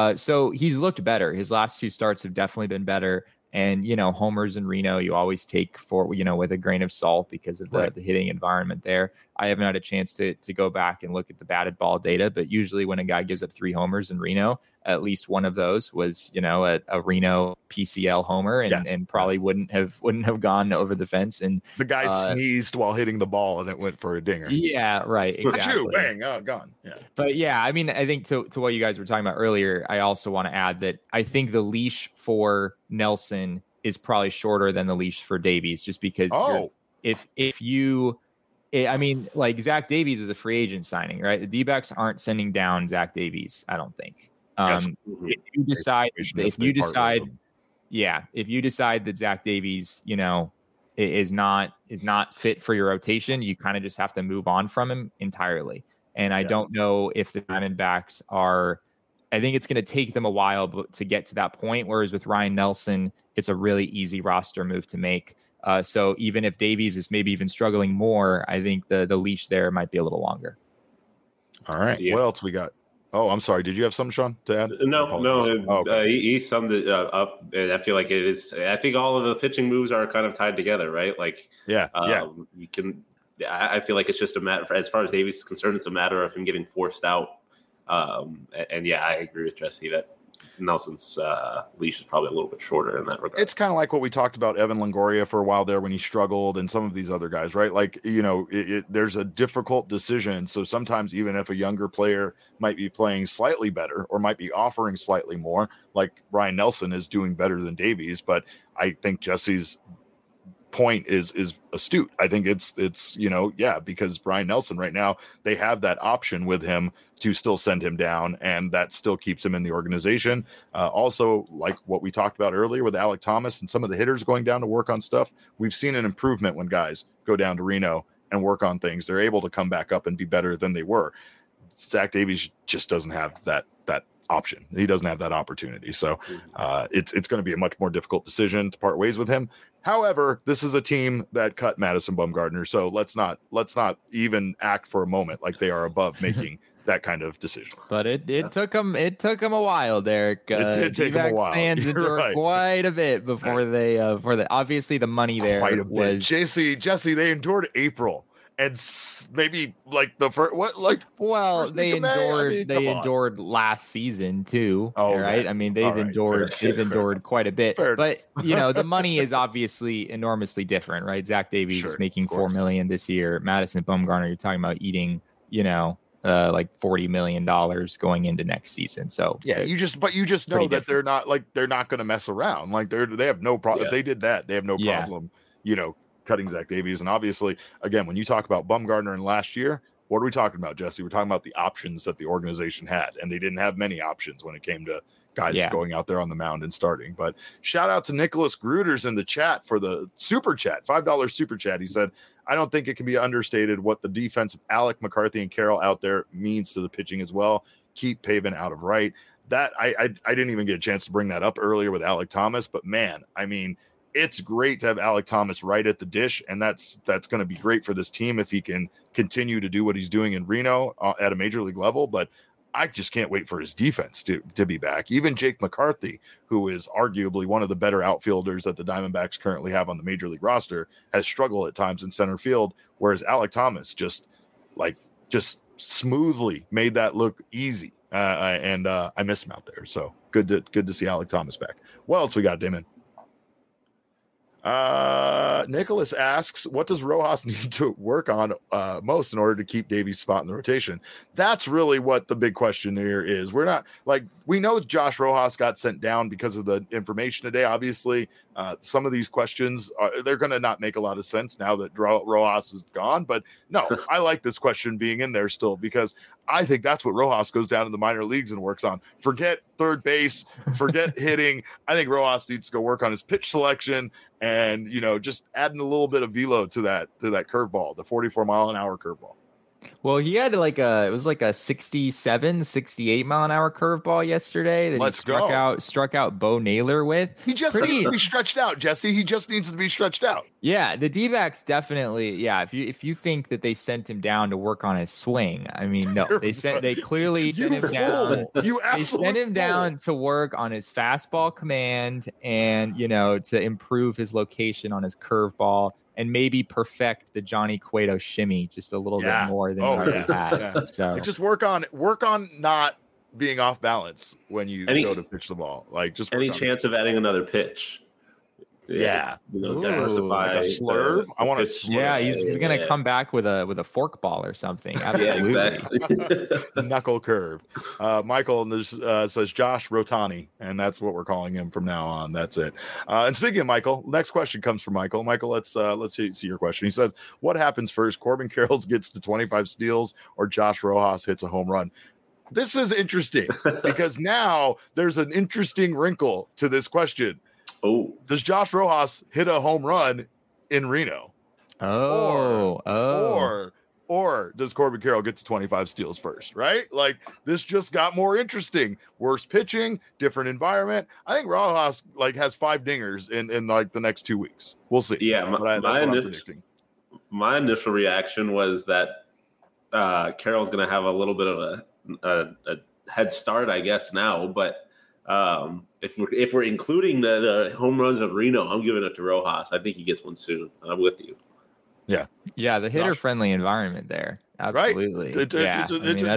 So he's looked better. His last 2 starts have definitely been better. And, homers in Reno, you always take with a grain of salt because of the hitting environment there. I haven't had a chance to go back and look at the batted ball data, but usually when a guy gives up 3 homers in Reno, at least one of those was, a Reno PCL homer and probably wouldn't have gone over the fence. And the guy sneezed while hitting the ball and it went for a dinger. Yeah, right. Exactly. Bang, gone. Yeah. But yeah, I mean, I think to what you guys were talking about earlier, I also want to add that I think the leash for Nelson is probably shorter than the leash for Davies, just because like Zach Davies was a free agent signing, right? The D-backs aren't sending down Zach Davies, I don't think. If you decide that Zach Davies, is not fit for your rotation, you kind of just have to move on from him entirely. And I don't know if the Diamondbacks are. I think it's going to take them a while to get to that point. Whereas with Ryan Nelson, it's a really easy roster move to make. So even if Davies is maybe even struggling more, I think the leash there might be a little longer. All right. Yeah. What else we got? Oh, I'm sorry. Did you have something, Sean, to add? No. Okay. He summed it up. And I feel like it is. I think all of the pitching moves are kind of tied together, right? Like, you can. I feel like it's just a matter. As far as Davies is concerned, it's a matter of him getting forced out. And yeah, I agree with Jesse that Nelson's leash is probably a little bit shorter in that regard. It's kind of like what we talked about Evan Longoria for a while there when he struggled, and some of these other guys, right? Like, there's a difficult decision. So sometimes even if a younger player might be playing slightly better or might be offering slightly more, like Ryan Nelson is doing better than Davies, but I think Jesse's point is astute. I think it's because Brian Nelson right now, they have that option with him to still send him down, and that still keeps him in the organization. Also, like what we talked about earlier with Alek Thomas and some of the hitters going down to work on stuff, we've seen an improvement when guys go down to Reno and work on things. They're able to come back up and be better than they were. Zach Davies just doesn't have that option. He doesn't have that opportunity. So it's going to be a much more difficult decision to part ways with him. However, this is a team that cut Madison Bumgarner, so let's not even act for a moment like they are above making that kind of decision. But it took them a while, Derek. It did take them a while. Fans endured quite a bit before they obviously the money there was Jesse. They endured April. And maybe like the first, they endured last season too. Oh, right. I mean, they've endured quite a bit, but the money is obviously enormously different, right? Zach Davies is making $4 million this year. Madison Bumgarner, you're talking about eating, like $40 million going into next season. So yeah, you just know that they're not going to mess around. Like they have no problem. If they did that, they have no problem, cutting Zach Davies. And obviously, again, when you talk about Bumgarner in last year, what are we talking about, Jesse? We're talking about the options that the organization had, and they didn't have many options when it came to guys going out there on the mound and starting. But shout out to Nicholas Gruters in the chat for the super chat, $5 super chat. He said, I don't think it can be understated what the defense of Alek, McCarthy, and Carroll out there means to the pitching as well. Keep Pavin out of right. That I didn't even get a chance to bring that up earlier with Alek Thomas, but man, I mean, it's great to have Alek Thomas right at the dish, and that's going to be great for this team if he can continue to do what he's doing in Reno at a major league level. But I just can't wait for his defense to be back. Even Jake McCarthy, who is arguably one of the better outfielders that the Diamondbacks currently have on the major league roster, has struggled at times in center field, whereas Alek Thomas just smoothly made that look easy. And I miss him out there. So good to see Alek Thomas back. What else we got, Damon? Nicholas asks, what does Rojas need to work on most in order to keep Davies' spot in the rotation? That's really what the big question here is. We're not we know Josh Rojas got sent down because of the information today. Obviously, some of these questions they're going to not make a lot of sense now that Rojas is gone. But no, I like this question being in there still because I think that's what Rojas goes down to the minor leagues and works on. Forget third base, forget hitting. I think Rojas needs to go work on his pitch selection and, just adding a little bit of velo to that curveball, the 44-mile-an-hour curveball. Well, he had it was like a 67, 68 mile an hour curveball yesterday that struck out Bo Naylor with. He just needs to be stretched out, Jesse. He just needs to be stretched out. Yeah, the D-backs definitely. Yeah, if you think that they sent him down to work on his swing, I mean, no, they clearly sent him down. They sent him down to work on his fastball command and to improve his location on his curveball. And maybe perfect the Johnny Cueto shimmy just a little bit more than he already has. Yeah. So just work on not being off balance when you go to pitch the ball. Like just any chance of adding another pitch. Yeah. Diversify. Like a slurve. I want to slurve. Yeah, he's going to come back with a forkball or something. Absolutely. Yeah, exactly. Knuckle curve. Michael says Josh Rotani, and that's what we're calling him from now on. That's it. And speaking of Michael, next question comes from Michael. Michael, let's see your question. He says, what happens first? Corbin Carroll gets to 25 steals or Josh Rojas hits a home run? This is interesting because now there's an interesting wrinkle to this question. Oh, does Josh Rojas hit a home run in Reno? Or does Corbin Carroll get to 25 steals first, right? Like, this just got more interesting. Worse pitching, different environment. I think Rojas has 5 dingers in like the next 2 weeks. We'll see. Yeah, that's what I'm predicting. My initial reaction was that Carroll's going to have a little bit of a head start, I guess, now. But if we're including the home runs of Reno, I'm giving it to Rojas. I think he gets one soon. I'm with you. Yeah, the hitter-friendly environment there. Absolutely. Right. That's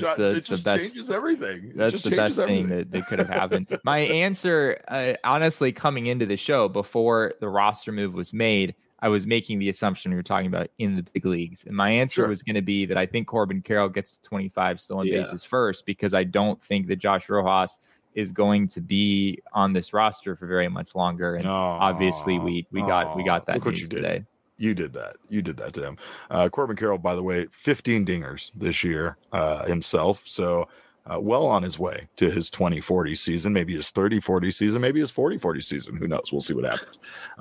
the best. Changes everything. That's the best thing that could have happened. My answer, honestly, coming into the show before the roster move was made, I was making the assumption we were talking about in the big leagues. And my answer was going to be that I think Corbin Carroll gets to 25 stolen bases first, because I don't think that Josh Rojas is going to be on this roster for very much longer. And obviously we got that news today. You did that. You did that to him. Corbin Carroll, by the way, 15 dingers this year himself. So well on his way to his 20-40 season, maybe his 30-40 season, maybe his 40-40 season. Who knows? We'll see what happens.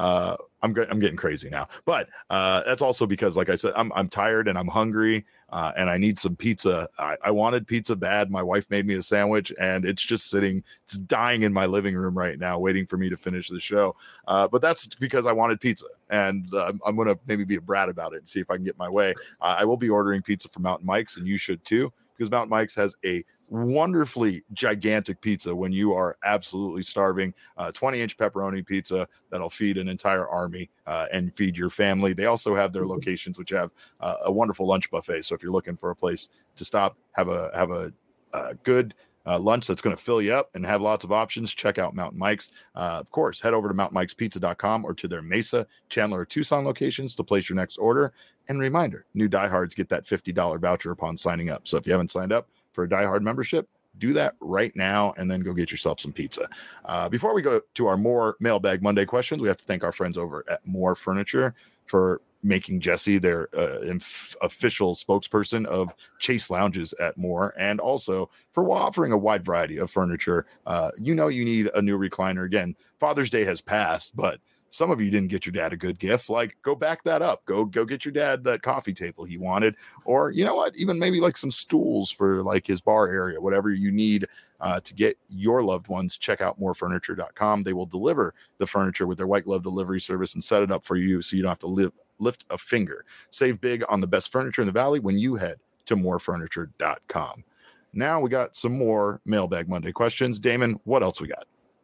I'm getting crazy now, but that's also because, like I said, I'm tired and I'm hungry and I need some pizza. I wanted pizza bad. My wife made me a sandwich and it's just it's dying in my living room right now, waiting for me to finish the show. But that's because I wanted pizza, and I'm going to maybe be a brat about it and see if I can get my way. I will be ordering pizza from Mountain Mike's, and you should too, because Mountain Mike's has a wonderfully gigantic pizza when you are absolutely starving. 20-inch pepperoni pizza that'll feed an entire army and feed your family. They also have their locations which have a wonderful lunch buffet. So if you're looking for a place to stop, have a good lunch that's going to fill you up and have lots of options, check out Mountain Mike's. Of course, head over to mountainmikespizza.com or to their Mesa, Chandler, or Tucson locations to place your next order. And reminder, new diehards get that $50 voucher upon signing up. So if you haven't signed up for a diehard membership, do that right now and then go get yourself some pizza. Before we go to our more Mailbag Monday questions, we have to thank our friends over at More Furniture for making Jesse their official spokesperson of Chase Lounges at More, and also for offering a wide variety of furniture. You need a new recliner. Again, Father's Day has passed, but some of you didn't get your dad a good gift. Like, go back that up. Go get your dad that coffee table he wanted, or you know what, even maybe like some stools for like his bar area, whatever you need to get your loved ones. Check out morefurniture.com. They will deliver the furniture with their white glove delivery service and set it up for you so you don't have to lift a finger. Save big on the best furniture in the valley when you head to morefurniture.com. Now we got some more Mailbag Monday questions. Damon, what else we got?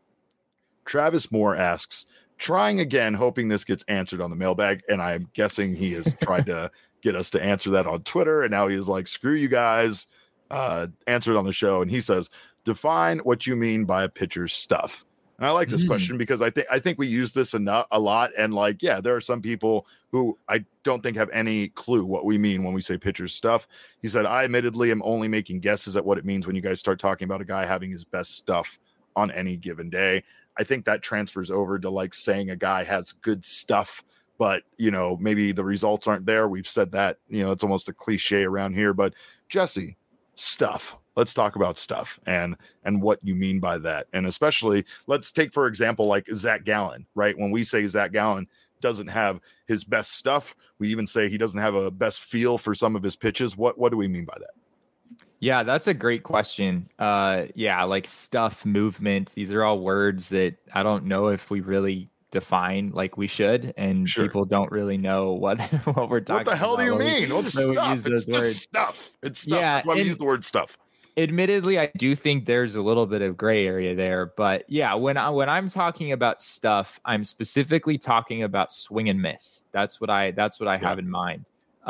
Travis Moore asks, trying again, hoping this gets answered on the mailbag, and I'm guessing he has tried to get us to answer that on Twitter, and now he's like, screw you guys, answer it on the show. And he says, define what you mean by a pitcher's stuff. And I like this question because I think we use this a lot, and like, yeah, there are some people who I don't think have any clue what we mean when we say pitcher's stuff. He said, I admittedly am only making guesses at what it means when you guys start talking about a guy having his best stuff on any given day. I think that transfers over to like saying a guy has good stuff, but maybe the results aren't there. We've said that, it's almost a cliche around here, but Jesse, stuff. Let's talk about stuff and what you mean by that. And especially let's take, for example, like Zach Gallen, right? When we say Zach Gallen doesn't have his best stuff, we even say he doesn't have a best feel for some of his pitches. What do we mean by that? Yeah, that's a great question. Like stuff, movement. These are all words that I don't know if we really define like we should, and people don't really know what we're talking about. What the hell do you mean? What's stuff? It's just stuff. It's stuff. Yeah, that's why we use the word stuff. Admittedly, I do think there's a little bit of gray area there, but yeah, when I'm talking about stuff, I'm specifically talking about swing and miss. That's what I have in mind.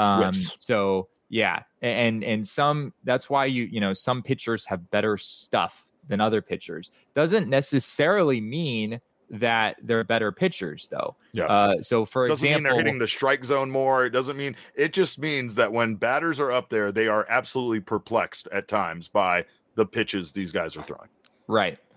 So yeah, and some, that's why some pitchers have better stuff than other pitchers. Doesn't necessarily mean that they're better pitchers, though. Yeah. So for doesn't example, mean they're hitting the strike zone more. It just means that when batters are up there, they are absolutely perplexed at times by the pitches these guys are throwing. Right.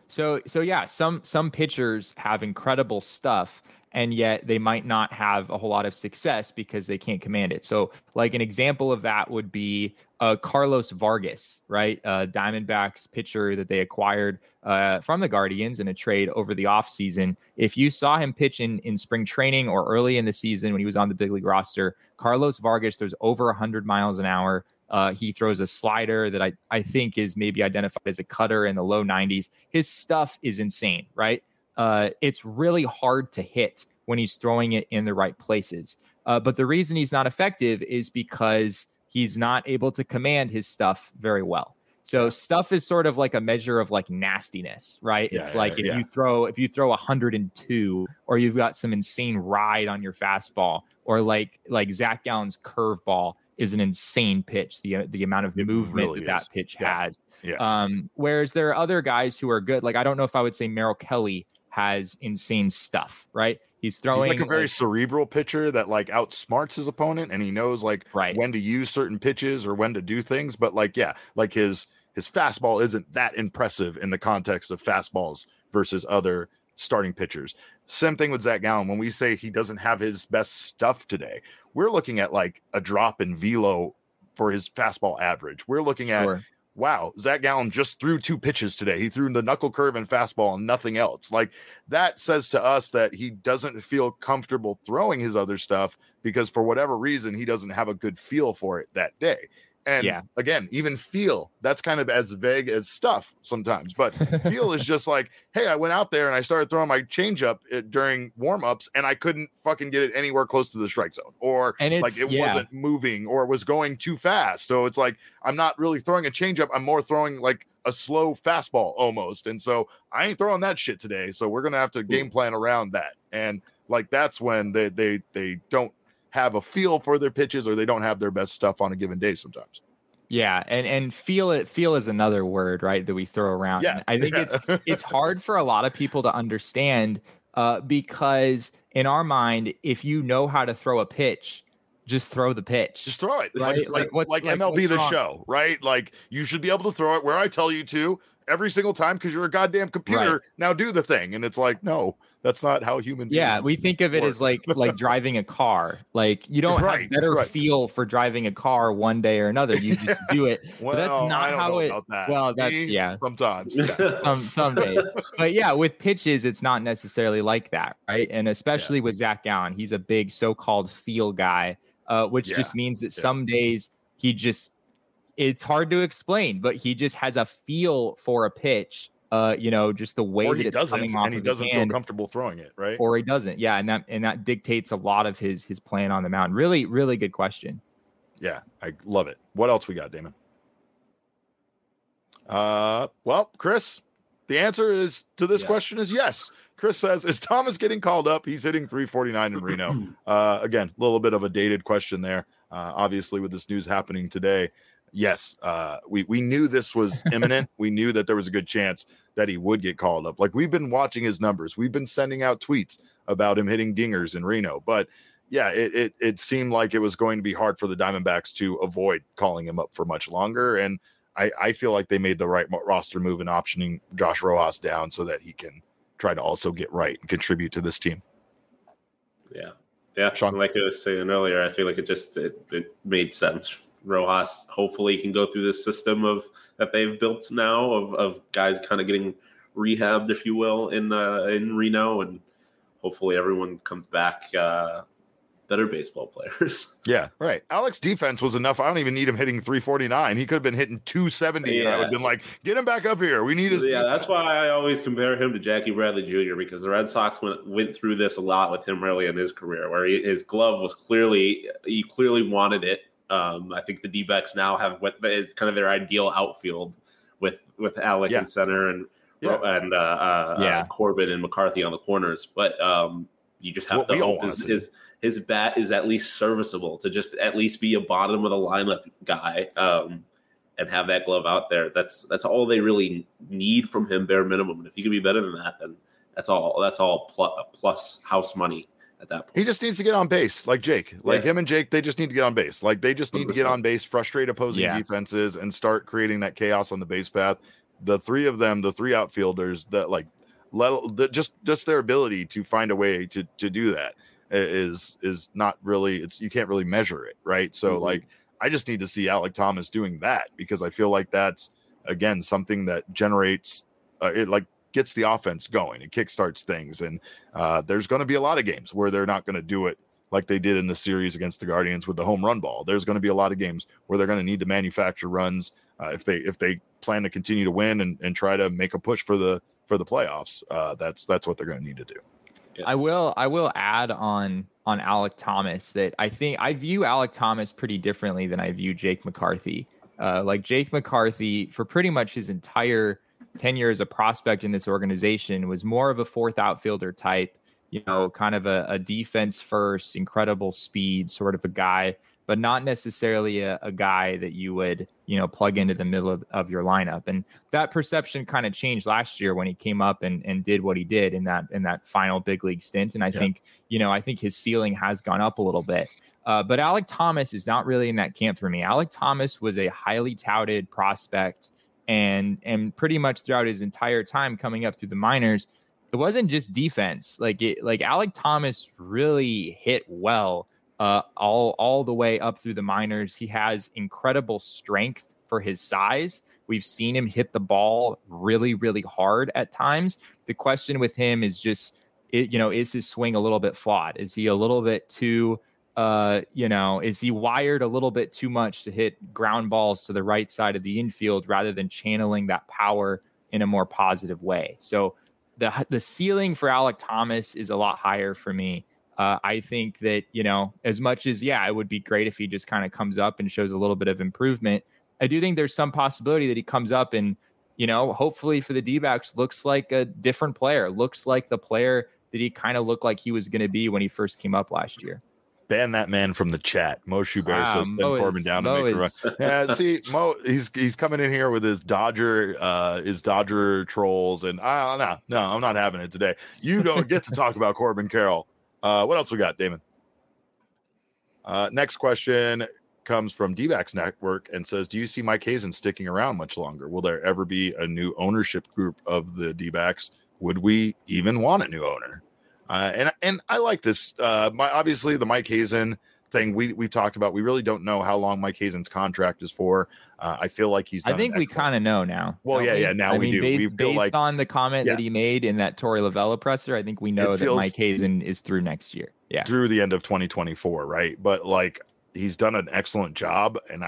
So yeah, some pitchers have incredible stuff, and yet they might not have a whole lot of success because they can't command it. So like an example of that would be Carlos Vargas, right? Diamondbacks pitcher that they acquired from the Guardians in a trade over the offseason. If you saw him pitch in spring training or early in the season when he was on the big league roster, Carlos Vargas throws over 100 miles an hour. He throws a slider that I think is maybe identified as a cutter in the low 90s. His stuff is insane, right? It's really hard to hit when he's throwing it in the right places. But the reason he's not effective is because he's not able to command his stuff very well. So stuff is sort of like a measure of like nastiness, right? It's like if you throw 102, or you've got some insane ride on your fastball, or like Zach Gallen's curveball is an insane pitch. The amount of movement really that pitch has. Yeah. Whereas there are other guys who are good. Like I don't know if I would say Merrill Kelly has insane stuff, right? He's like a very cerebral pitcher that like outsmarts his opponent, and he knows like when to use certain pitches or when to do things. But like his fastball isn't that impressive in the context of fastballs versus other starting pitchers. Same thing with Zach Gallen. When we say he doesn't have his best stuff today, we're looking at like a drop in velo for his fastball average. We're looking at wow, Zach Gallen just threw 2 pitches today. He threw the knuckle curve and fastball and nothing else. Like that says to us that he doesn't feel comfortable throwing his other stuff because for whatever reason, he doesn't have a good feel for it that day. And again, even feel, that's kind of as vague as stuff sometimes, but feel is just like, hey, I went out there and I started throwing my changeup during warmups and I couldn't fucking get it anywhere close to the strike zone, or like it wasn't moving, or it was going too fast. So it's like, I'm not really throwing a changeup. I'm more throwing like a slow fastball almost. And so I ain't throwing that shit today. So we're going to have to game plan around that. And like, that's when they don't have a feel for their pitches, or they don't have their best stuff on a given day sometimes. Yeah, and feel is another word, right, that we throw around. Yeah. I think it's hard for a lot of people to understand because in our mind, if you know how to throw a pitch, just throw the pitch. Just throw it. Right? Like MLB The Show, right? Like you should be able to throw it where I tell you to every single time because you're a goddamn computer. Right. Now do the thing. And it's like, no, that's not how human beings we think of it as like driving a car. Like you don't have better feel for driving a car one day or another. You just do it. Well, but that's not how it well, that's sometimes. Some days. But with pitches, it's not necessarily like that, right? And especially with Zach Gallen, he's a big so-called feel guy, which just means that some days it's hard to explain, but he just has a feel for a pitch. Just the way that it's coming off, and he doesn't feel comfortable throwing it, right? Or he doesn't, and that dictates a lot of his plan on the mound. Really, really good question. Yeah, I love it. What else we got, Damon? Well, Chris, the answer is to this question is yes. Chris says, is Thomas getting called up? He's hitting 349 in Reno. Again, a little bit of a dated question there. Obviously, with this news happening today. Yes, we knew this was imminent. We knew that there was a good chance that he would get called up. Like we've been watching his numbers. We've been sending out tweets about him hitting dingers in Reno. But it seemed like it was going to be hard for the Diamondbacks to avoid calling him up for much longer. And I feel like they made the right roster move in optioning Josh Rojas down so that he can try to also get right and contribute to this team. Yeah. Sean? Like I was saying earlier, I feel like it made sense. Rojas hopefully can go through this system that they've built now of guys kind of getting rehabbed, if you will, in Reno, and hopefully everyone comes back better baseball players. Yeah, right. Alex defense was enough. I don't even need him hitting 349. He could have been hitting 270, and I would have been like, get him back up here. We need his defense. That's why I always compare him to Jackie Bradley Jr. because the Red Sox went through this a lot with him early in his career, where his glove was clearly wanted it. I think the D-backs now have it's kind of their ideal outfield with Alec in center and Corbin and McCarthy on the corners. But you just have to hope his bat is at least serviceable to just at least be a bottom of the lineup guy and have that glove out there. That's all they really need from him, bare minimum. And if he can be better than that, then that's all plus house money. At that point, he just needs to get on base, like Jake. Him and Jake, they just need to get on base. Like they just need 100%. To get on base, frustrate opposing defenses, and start creating that chaos on the base path. the three of them, the three outfielders, that like just their ability to find a way to do that is not really, you can't really measure it, right? So like I just need to see Alek Thomas doing that, because I feel like that's again something that generates it, like gets the offense going, it kickstarts things, and there's going to be a lot of games where they're not going to do it like they did in the series against the Guardians with the home run ball. There's going to be a lot of games where they're going to need to manufacture runs if they plan to continue to win and try to make a push for the playoffs. That's what they're going to need to do. Yeah. I will add on Alek Thomas that I think I view Alek Thomas pretty differently than I view Jake McCarthy. Like Jake McCarthy, for pretty much his entire tenure as a prospect in this organization, was more of a fourth outfielder type, kind of a defense first, incredible speed sort of a guy, but not necessarily a guy that you would, plug into the middle of your lineup. And that perception kind of changed last year when he came up and did what he did in that final big league stint. And I think his ceiling has gone up a little bit. But Alek Thomas is not really in that camp for me. Alek Thomas was a highly touted prospect, and pretty much throughout his entire time coming up through the minors, it wasn't just defense. Like Alek Thomas really hit well all the way up through the minors. He has incredible strength for his size. We've seen him hit the ball really, really hard at times. The question with him is just, is his swing a little bit flawed? Is he a little bit too, is he wired a little bit too much to hit ground balls to the right side of the infield rather than channeling that power in a more positive way? So the ceiling for Alek Thomas is a lot higher for me. I think that, as much as, it would be great if he just kind of comes up and shows a little bit of improvement, I do think there's some possibility that he comes up and, hopefully for the D-backs looks like a different player, looks like the player that he kind of looked like he was going to be when he first came up last year. Ban that man from the chat. Mo Schubert says send Corbin down to make a run. Yeah, see, Mo, he's coming in here with his Dodger trolls, and no, I'm not having it today. You don't get to talk about Corbin Carroll. What else we got, Damon? Next question comes from D-backs Network and says, do you see Mike Hazen sticking around much longer? Will there ever be a new ownership group of the D-backs? Would we even want a new owner? And I like this. Obviously, the Mike Hazen thing we've talked about. We really don't know how long Mike Hazen's contract is for. I feel like he's. I think we kind of know now. Well, yeah. Now we do. Based on the comment that he made in that Torey Lovullo presser, I think we know that Mike Hazen is through next year. Yeah, through the end of 2024, right? But like, he's done an excellent job, and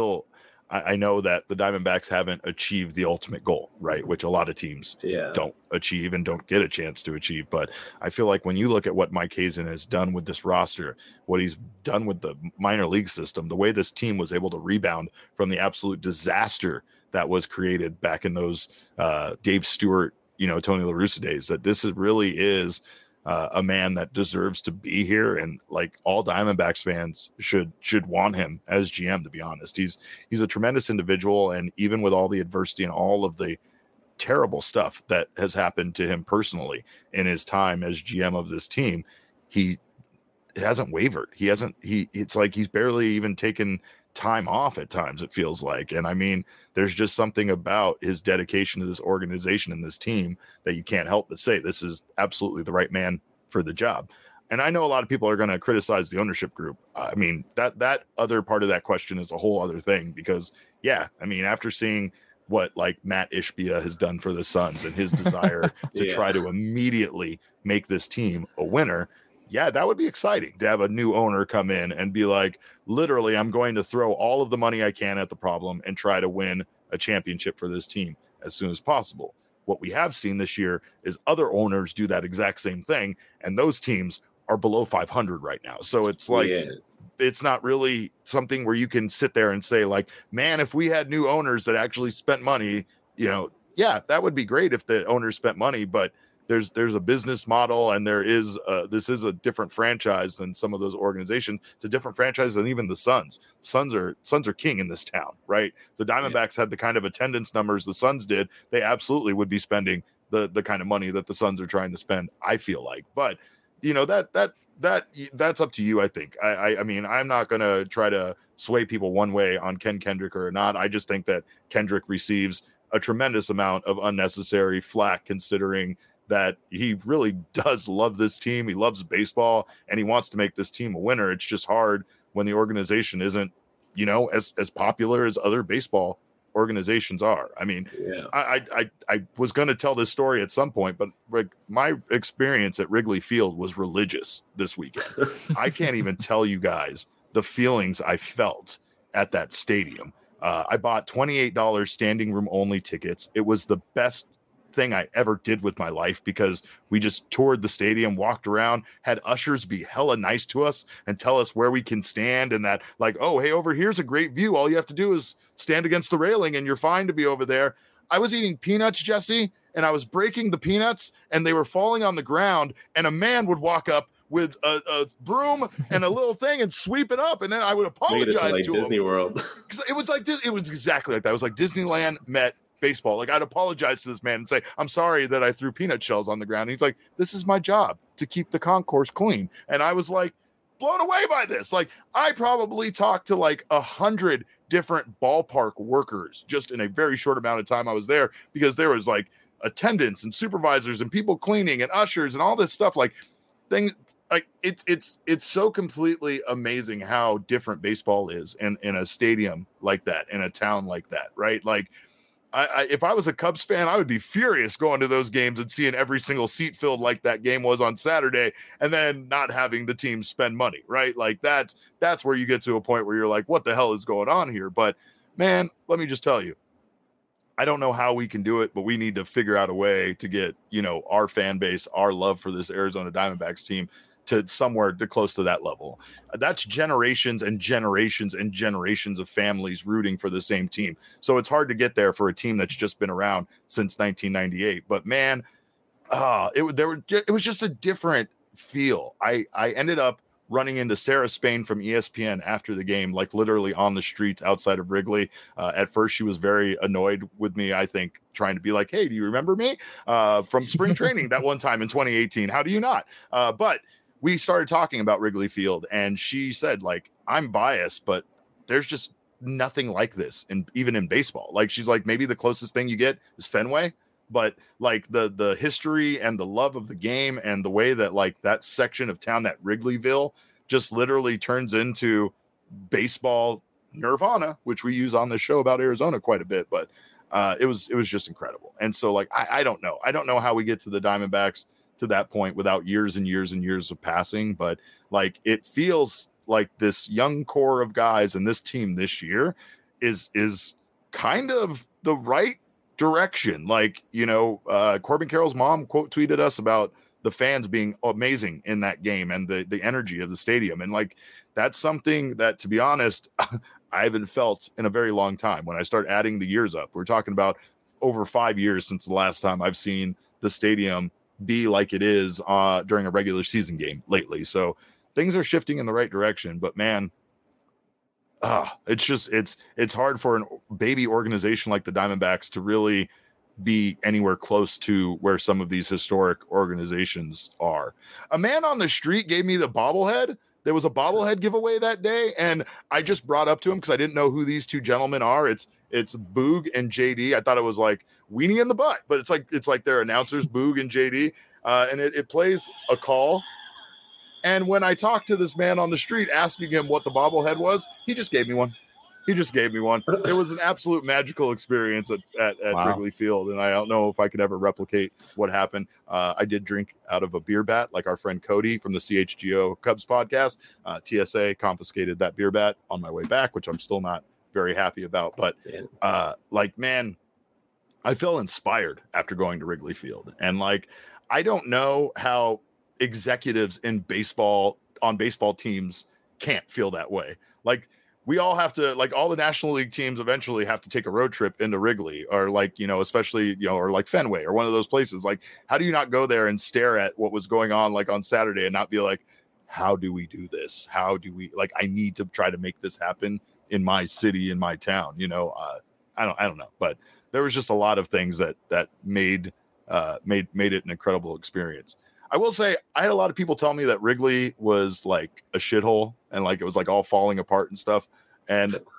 I know that the Diamondbacks haven't achieved the ultimate goal, right? Which a lot of teams don't achieve and don't get a chance to achieve. But I feel like when you look at what Mike Hazen has done with this roster, what he's done with the minor league system, the way this team was able to rebound from the absolute disaster that was created back in those Dave Stewart, Tony La Russa days, that this really is a man that deserves to be here, and like all Diamondbacks fans should want him as GM. To be honest, he's a tremendous individual, and even with all the adversity and all of the terrible stuff that has happened to him personally in his time as GM of this team, he hasn't wavered. It's like he's barely even taken time off at times, it feels like. And I mean, there's just something about his dedication to this organization and this team that you can't help but say this is absolutely the right man for the job. And I know a lot of people are going to criticize the ownership group. I mean, that other part of that question is a whole other thing, because after seeing what like Matt Ishbia has done for the Suns and his desire to try to immediately make this team a winner, that would be exciting to have a new owner come in and be like, literally, I'm going to throw all of the money I can at the problem and try to win a championship for this team as soon as possible. What we have seen this year is other owners do that exact same thing, and those teams are below 500 right now. So it's like, it's not really something where you can sit there and say like, man, if we had new owners that actually spent money, that would be great if the owners spent money, but there's a business model, and this is a different franchise than some of those organizations. It's a different franchise than even the Suns. Suns are king in this town, right? The Diamondbacks had the kind of attendance numbers the Suns did. They absolutely would be spending the kind of money that the Suns are trying to spend, I feel like. But that's up to you, I think. I mean, I'm not going to try to sway people one way on Ken Kendrick or not. I just think that Kendrick receives a tremendous amount of unnecessary flack, considering that he really does love this team. He loves baseball and he wants to make this team a winner. It's just hard when the organization isn't, you know, as popular as other baseball organizations are. I mean, I was going to tell this story at some point, but like my experience at Wrigley Field was religious this weekend. I can't even tell you guys the feelings I felt at that stadium. I bought $28 standing room only tickets. It was the best thing I ever did with my life because we just toured the stadium, walked around, had ushers be hella nice to us and tell us where we can stand, and that like, oh, hey, over here's a great view. All you have to do is stand against the railing and you're fine to be over there. I was eating peanuts, Jesse, and I was breaking the peanuts and they were falling on the ground, and a man would walk up with a broom and a little thing and sweep it up, and then I would apologize to Disney him. World. It was like this. It was exactly like that. It was like Disneyland met baseball. Like, I'd apologize to this man and say, I'm sorry that I threw peanut shells on the ground. And he's like, this is my job, to keep the concourse clean. And I was like blown away by this. Like, I probably talked to like 100 different ballpark workers just in a very short amount of time I was there, because there was like attendants and supervisors and people cleaning and ushers and all this stuff. Like, things like it's so completely amazing how different baseball is in a stadium like that, in a town like that, right? Like, if I was a Cubs fan, I would be furious going to those games and seeing every single seat filled like that game was on Saturday, and then not having the team spend money, right? Like, that's where you get to a point where you're like, what the hell is going on here? But man, let me just tell you, I don't know how we can do it, but we need to figure out a way to get, you know, our fan base, our love for this Arizona Diamondbacks team to somewhere to close to that level. That's generations and generations and generations of families rooting for the same team. So it's hard to get there for a team that's just been around since 1998. But man, it was just a different feel. I ended up running into Sarah Spain from ESPN after the game, like literally on the streets outside of Wrigley. At first, she was very annoyed with me, I think, trying to be like, hey, do you remember me from spring training that one time in 2018? How do you not? But we started talking about Wrigley Field, and she said, like, I'm biased, but there's just nothing like this, even in baseball. Like, she's like, maybe the closest thing you get is Fenway, but like the history and the love of the game and the way that like that section of town, that Wrigleyville, just literally turns into baseball nirvana, which we use on the show about Arizona quite a bit. But it was just incredible. And so like, I don't know how we get to the Diamondbacks to that point without years and years and years of passing, but like, it feels like this young core of guys and this team this year is kind of the right direction. Like, you know, Corbin Carroll's mom quote tweeted us about the fans being amazing in that game and the energy of the stadium. And like, that's something that, to be honest, I haven't felt in a very long time. When I start adding the years up, we're talking about over 5 years since the last time I've seen the stadium be like it is during a regular season game lately. So things are shifting in the right direction, but man, it's hard for a baby organization like the Diamondbacks to really be anywhere close to where some of these historic organizations are. A man on the street gave me the bobblehead. There was a bobblehead giveaway that day, and I just brought up to him because I didn't know who these two gentlemen are. It's Boog and JD. I thought it was like Weenie in the Butt, but it's like their announcers, Boog and JD, and it plays a call. And when I talked to this man on the street asking him what the bobblehead was, he just gave me one. It was an absolute magical experience at wow. Wrigley Field, and I don't know if I could ever replicate what happened. I did drink out of a beer bat, like our friend Cody from the CHGO Cubs podcast. TSA confiscated that beer bat on my way back, which I'm still not very happy about. But like, man, I felt inspired after going to Wrigley Field. And like, I don't know how executives in baseball on baseball teams can't feel that way. Like, we all have to, like, all the National League teams eventually have to take a road trip into Wrigley, or like, you know, especially, you know, or like Fenway or one of those places. Like, how do you not go there and stare at what was going on like on Saturday and not be like, how do we do this? How do we, like, I need to try to make this happen in my city, in my town, you know? I don't know, but there was just a lot of things that made it an incredible experience. I will say, I had a lot of people tell me that Wrigley was like a shithole and like it was like all falling apart and stuff. And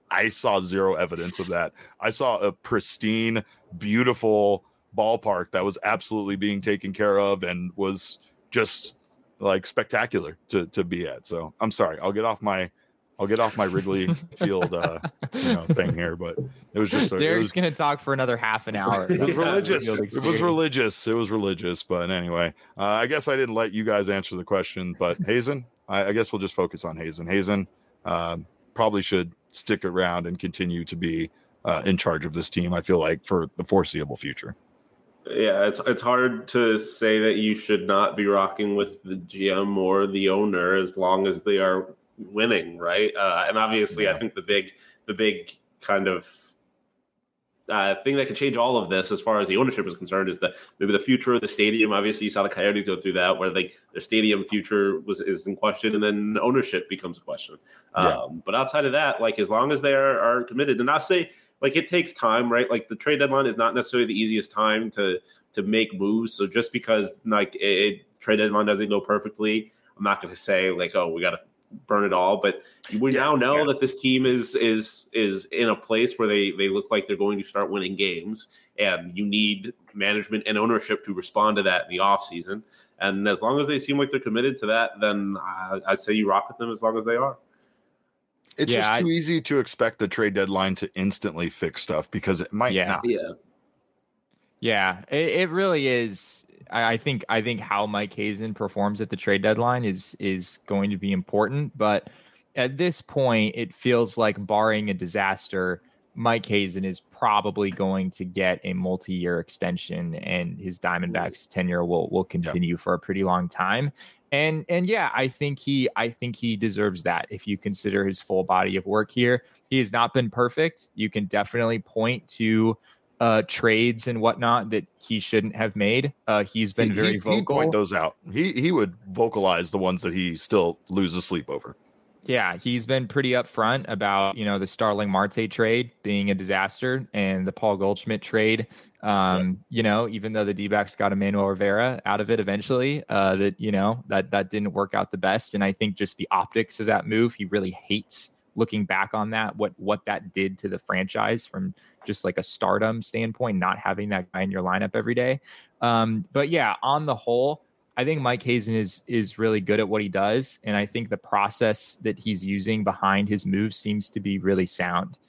I saw zero evidence of that. I saw a pristine, beautiful ballpark that was absolutely being taken care of and was just like spectacular to be at. So I'm sorry. I'll get off my Wrigley Field thing here, but it was just Derek's gonna talk for another half an hour. It was religious. It was religious. But anyway, I guess I didn't let you guys answer the question. But Hazen, I guess we'll just focus on Hazen. Hazen probably should stick around and continue to be in charge of this team. I feel like for the foreseeable future. Yeah, it's hard to say that you should not be rocking with the GM or the owner as long as they are winning, right? And obviously, I think the big kind of thing that could change all of this as far as the ownership is concerned is maybe the future of the stadium. Obviously, you saw the Coyotes go through that, where their stadium future is in question, and then ownership becomes a question. But outside of that, like as long as they are committed, and I'll say like it takes time, right? Like the trade deadline is not necessarily the easiest time to make moves. So just because like a trade deadline doesn't go perfectly, I'm not going to say like, oh, we got to burn it all. But we now know that this team is in a place where they look like they're going to start winning games, and you need management and ownership to respond to that in the offseason. And as long as they seem like they're committed to that, then I say you rock with them as long as they are. It's just too easy to expect the trade deadline to instantly fix stuff because it might not. Yeah, it really is. I think how Mike Hazen performs at the trade deadline is going to be important. But at this point, it feels like barring a disaster, Mike Hazen is probably going to get a multi-year extension, and his Diamondbacks tenure will continue for a pretty long time. And yeah, I think he deserves that. If you consider his full body of work here, he has not been perfect. You can definitely point to trades and whatnot that he shouldn't have made. He's been very vocal. He'd point those out. He would vocalize the ones that he still loses sleep over. Yeah, he's been pretty upfront about, the Starling Marte trade being a disaster and the Paul Goldschmidt trade. Even though the D-backs got Emmanuel Rivera out of it eventually, that didn't work out the best. And I think just the optics of that move, he really hates looking back on that, what that did to the franchise from just like a stardom standpoint, not having that guy in your lineup every day. But yeah, on the whole, I think Mike Hazen is really good at what he does. And I think the process that he's using behind his moves seems to be really sound.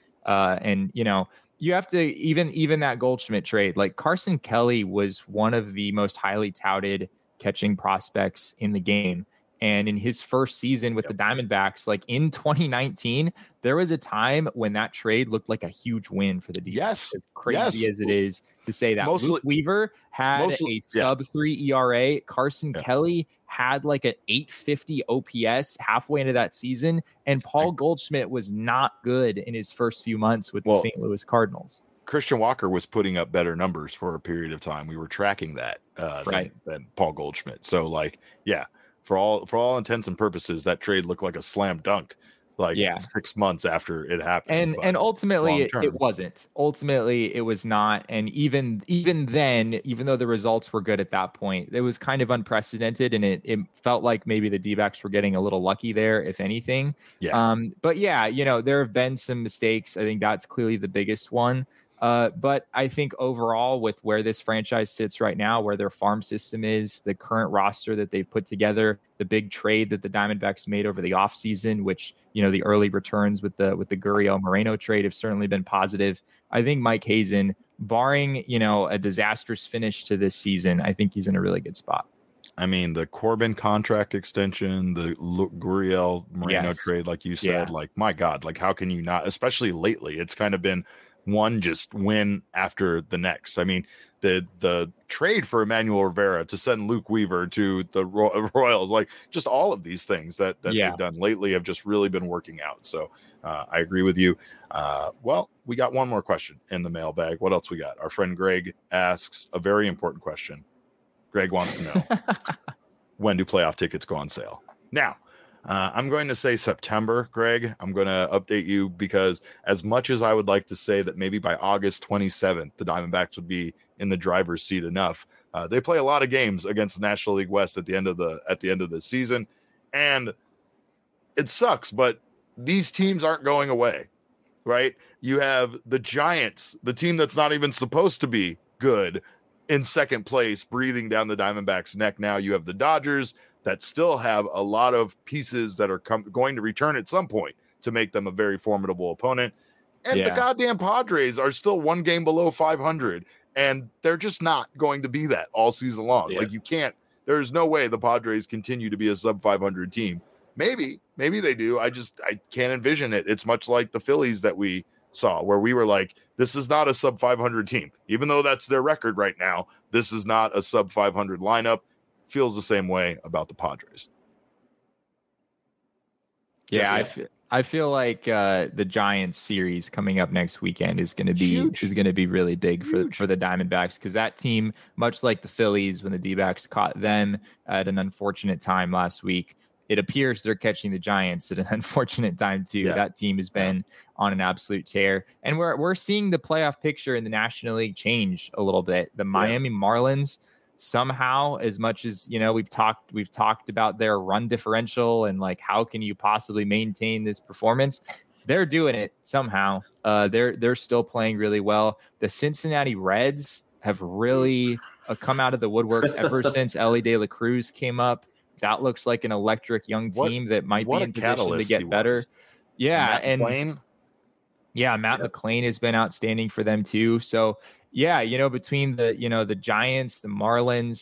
You have to even that Goldschmidt trade, like Carson Kelly was one of the most highly touted catching prospects in the game. And in his first season with the Diamondbacks, like in 2019, there was a time when that trade looked like a huge win for the defense. Yes. As crazy as it is to say that. Luke Weaver had a sub-3 ERA. Carson Kelly had like an 850 OPS halfway into that season. And Paul Goldschmidt was not good in his first few months with the St. Louis Cardinals. Christian Walker was putting up better numbers for a period of time. We were tracking that than Paul Goldschmidt. So for all intents and purposes, that trade looked like a slam dunk, 6 months after it happened. And ultimately it wasn't. Ultimately it was not. And even then, even though the results were good at that point, it was kind of unprecedented, and it felt like maybe the D-backs were getting a little lucky there, if anything. But there have been some mistakes. I think that's clearly the biggest one. But I think overall, with where this franchise sits right now, where their farm system is, the current roster that they've put together, the big trade that the Diamondbacks made over the offseason, which, the early returns with the Gurriel Moreno trade have certainly been positive. I think Mike Hazen, barring, a disastrous finish to this season, I think he's in a really good spot. I mean, the Corbin contract extension, the Gurriel Moreno trade, like you said, my God, how can you not, especially lately, it's kind of been one just win after the next. I mean, the trade for Emmanuel Rivera to send Luke Weaver to the Royals, just all of these things that they've done lately have just really been working out. So I agree with you. We got one more question in the mailbag. What else we got? Our friend Greg asks a very important question. Greg wants to know, when do playoff tickets go on sale? Now, I'm going to say September, Greg. I'm going to update you because as much as I would like to say that maybe by August 27th, the Diamondbacks would be in the driver's seat enough. They play a lot of games against the National League West at the end of the season. And it sucks, but these teams aren't going away. right? You have the Giants, the team that's not even supposed to be good, in second place, breathing down the Diamondbacks' neck. Now you have the Dodgers that still have a lot of pieces that are going to return at some point to make them a very formidable opponent. And the goddamn Padres are still one game below 500, and they're just not going to be that all season long. Like, you can't, there's no way the Padres continue to be a sub 500 team. Maybe they do. I can't envision it. It's much like the Phillies that we saw, where we were like, this is not a sub 500 team. Even though that's their record right now, this is not a sub 500 lineup. Feels the same way about the Padres. Yeah, I feel like the Giants series coming up next weekend is going to be really big for the Diamondbacks, because that team, much like the Phillies when the D-backs caught them at an unfortunate time last week, it appears they're catching the Giants at an unfortunate time too. Yeah. That team has been on an absolute tear, and we're seeing the playoff picture in the National League change a little bit. The Miami Marlins, somehow, as much as we've talked about their run differential and like how can you possibly maintain this performance, they're doing it somehow. They're still playing really well. The Cincinnati Reds have really come out of the woodworks ever since Elly De La Cruz came up. That looks like an electric young team that might be in position to get better. Yeah, Matt McClain has been outstanding for them too. So yeah, between the Giants, the Marlins,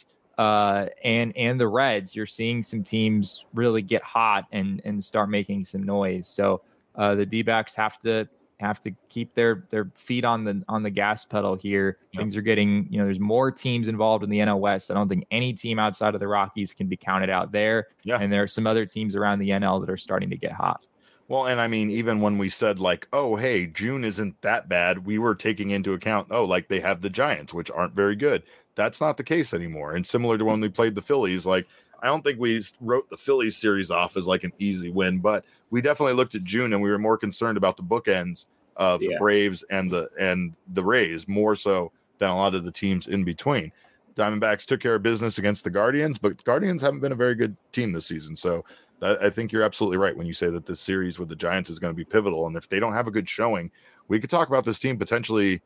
and the Reds, you're seeing some teams really get hot and start making some noise. So the D-backs have to keep their feet on the gas pedal here. Yep. Things are getting, there's more teams involved in the NL West. I don't think any team outside of the Rockies can be counted out there. Yeah. And there are some other teams around the NL that are starting to get hot. Well, and I mean, even when we said like, oh, hey, June isn't that bad, we were taking into account, like they have the Giants, which aren't very good. That's not the case anymore. And similar to when we played the Phillies, like, I don't think we wrote the Phillies series off as like an easy win, but we definitely looked at June and we were more concerned about the bookends of the Braves and the Rays, more so than a lot of the teams in between. Diamondbacks took care of business against the Guardians, but the Guardians haven't been a very good team this season. So I think you're absolutely right when you say that this series with the Giants is going to be pivotal. And if they don't have a good showing, we could talk about this team potentially,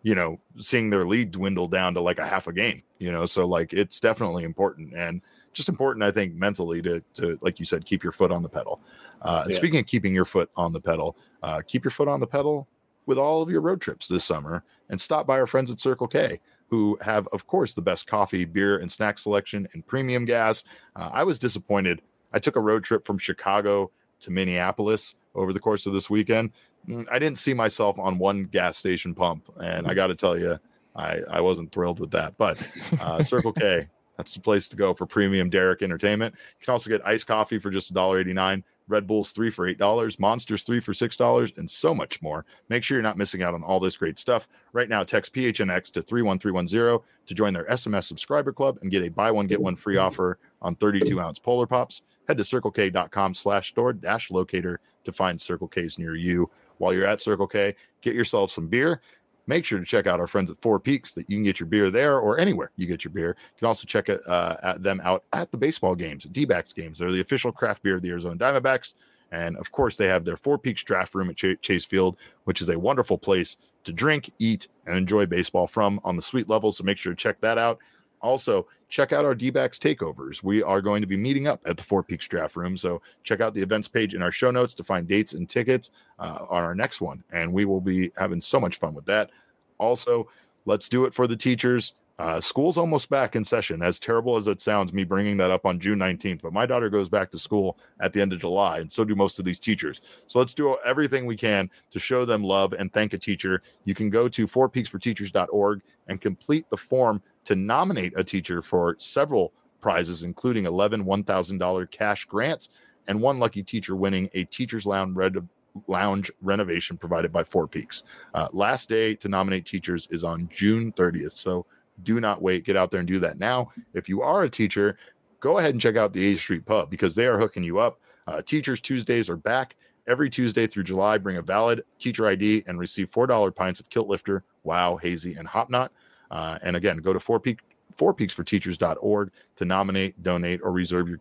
seeing their lead dwindle down to like a half a game, so like it's definitely important, and just important, I think, mentally to like you said, keep your foot on the pedal. And speaking of keeping your foot on the pedal, keep your foot on the pedal with all of your road trips this summer, and stop by our friends at Circle K, who have, of course, the best coffee, beer, and snack selection and premium gas. I was disappointed. I took a road trip from Chicago to Minneapolis over the course of this weekend. I didn't see myself on one gas station pump, and I got to tell you, I wasn't thrilled with that. But Circle K, that's the place to go for premium Derek entertainment. You can also get iced coffee for just $1.89, Red Bulls 3 for $8, Monsters 3 for $6, and so much more. Make sure you're not missing out on all this great stuff. Right now, text PHNX to 31310 to join their SMS subscriber club and get a buy one, get one free offer on 32-ounce Polar Pops. Head to circlek.com/store-locator to find Circle K's near you. While you're at Circle K, get yourself some beer. Make sure to check out our friends at Four Peaks, that you can get your beer there or anywhere you get your beer. You can also check at them out at the baseball games, D-backs games. They're the official craft beer of the Arizona Diamondbacks. And, of course, they have their Four Peaks draft room at Chase Field, which is a wonderful place to drink, eat, and enjoy baseball from on the suite level. So make sure to check that out. Also, check out our D-backs takeovers. We are going to be meeting up at the Four Peaks draft room. So check out the events page in our show notes to find dates and tickets on our next one. And we will be having so much fun with that. Also, let's do it for the teachers. School's almost back in session, as terrible as it sounds, me bringing that up on June 19th. But my daughter goes back to school at the end of July, and so do most of these teachers. So let's do everything we can to show them love and thank a teacher. You can go to fourpeaksforteachers.org and complete the form to nominate a teacher for several prizes, including 11 $1,000 cash grants and one lucky teacher winning a Teacher's Lounge renovation provided by Four Peaks. Last day to nominate teachers is on June 30th. So do not wait. Get out there and do that now. If you are a teacher, go ahead and check out the 8th Street Pub, because they are hooking you up. Teachers Tuesdays are back. Every Tuesday through July, bring a valid teacher ID and receive $4 pints of Kilt Lifter, Wow, Hazy, and Hop Knot. And again, go to fourpeaksforteachers.org to nominate, donate, or reserve your kit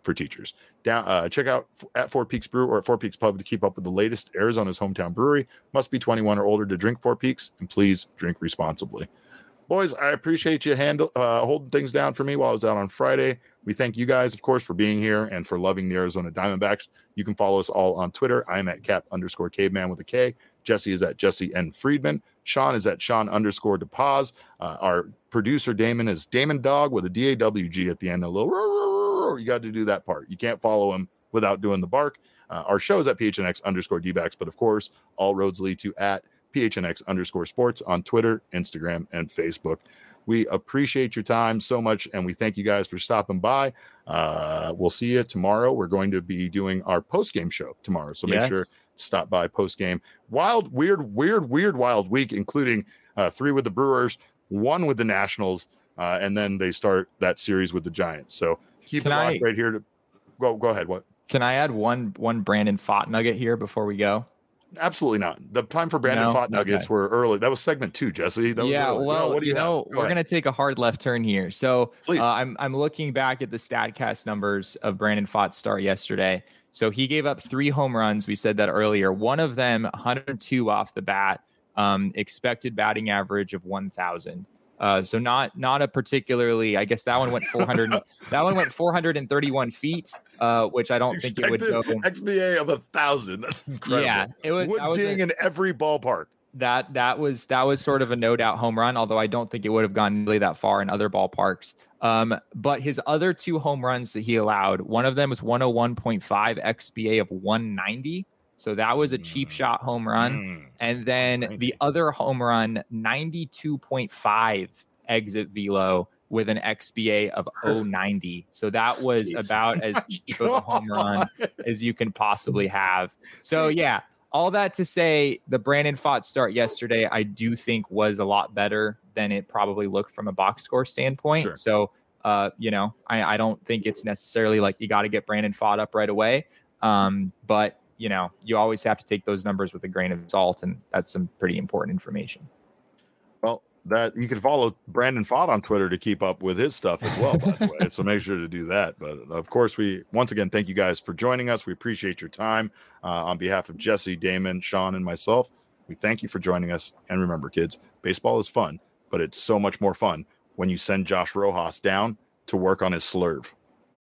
for teachers. Check out at Four Peaks Brew or at Four Peaks Pub to keep up with the latest Arizona's hometown brewery. Must be 21 or older to drink Four Peaks, and please drink responsibly. Boys, I appreciate you holding things down for me while I was out on Friday. We thank you guys, of course, for being here and for loving the Arizona Diamondbacks. You can follow us all on Twitter. I'm at Cap_Caveman with a K. Jesse is at Jesse N. Friedman. Sean is at Sean_DePaz. Our producer, Damon, is Damon Dog with a DAWG at the end. A little, you got to do that part. You can't follow him without doing the bark. Our show is at PHNX_DBacks, but of course, all roads lead to at PHNX_sports on Twitter, Instagram, and Facebook. We appreciate your time so much, and we thank you guys for stopping by. We'll see you tomorrow. We're going to be doing our post-game show tomorrow, so make sure to stop by post-game. Wild, weird, wild week, including 3 with the Brewers, 1 with the Nationals, and then they start that series with the Giants. So keep it locked right here. Go ahead. What? Can I add one Brandon Pfaadt nugget here before we go? Absolutely not. The time for Brandon Pfaadt nuggets were early. That was segment 2, Jesse. That was early. Well, what do you know? We're going to take a hard left turn here. So I'm looking back at the StatCast numbers of Brandon Pfaadt's start yesterday. So he gave up 3 home runs. We said that earlier. One of them, 102 off the bat, expected batting average of 1,000. So not a particularly, I guess that one went 400. That one went 431 feet, which I don't think it would go. XBA of 1,000. That's incredible. Yeah, it was. Wood ding in every ballpark. That was sort of a no doubt home run, although I don't think it would have gone really that far in other ballparks. But his other 2 home runs that he allowed, one of them was 101.5 XBA of 190. So that was a cheap shot home run. And then the other home run, 92.5 exit velo with an XBA of 090. So that was about as cheap of a home run as you can possibly have. So yeah, all that to say, the Brandon Pfaadt start yesterday, I do think was a lot better than it probably looked from a box score standpoint. Sure. So, I don't think it's necessarily like you got to get Brandon Pfaadt up right away. But you always have to take those numbers with a grain of salt, and that's some pretty important information. Well, that you can follow Brandon Pfaadt on Twitter to keep up with his stuff as well, by the way. So make sure to do that. But of course, we once again thank you guys for joining us. We appreciate your time. On behalf of Jesse, Damon, Sean, and myself, we thank you for joining us. And remember, kids, baseball is fun, but it's so much more fun when you send Josh Rojas down to work on his slurve.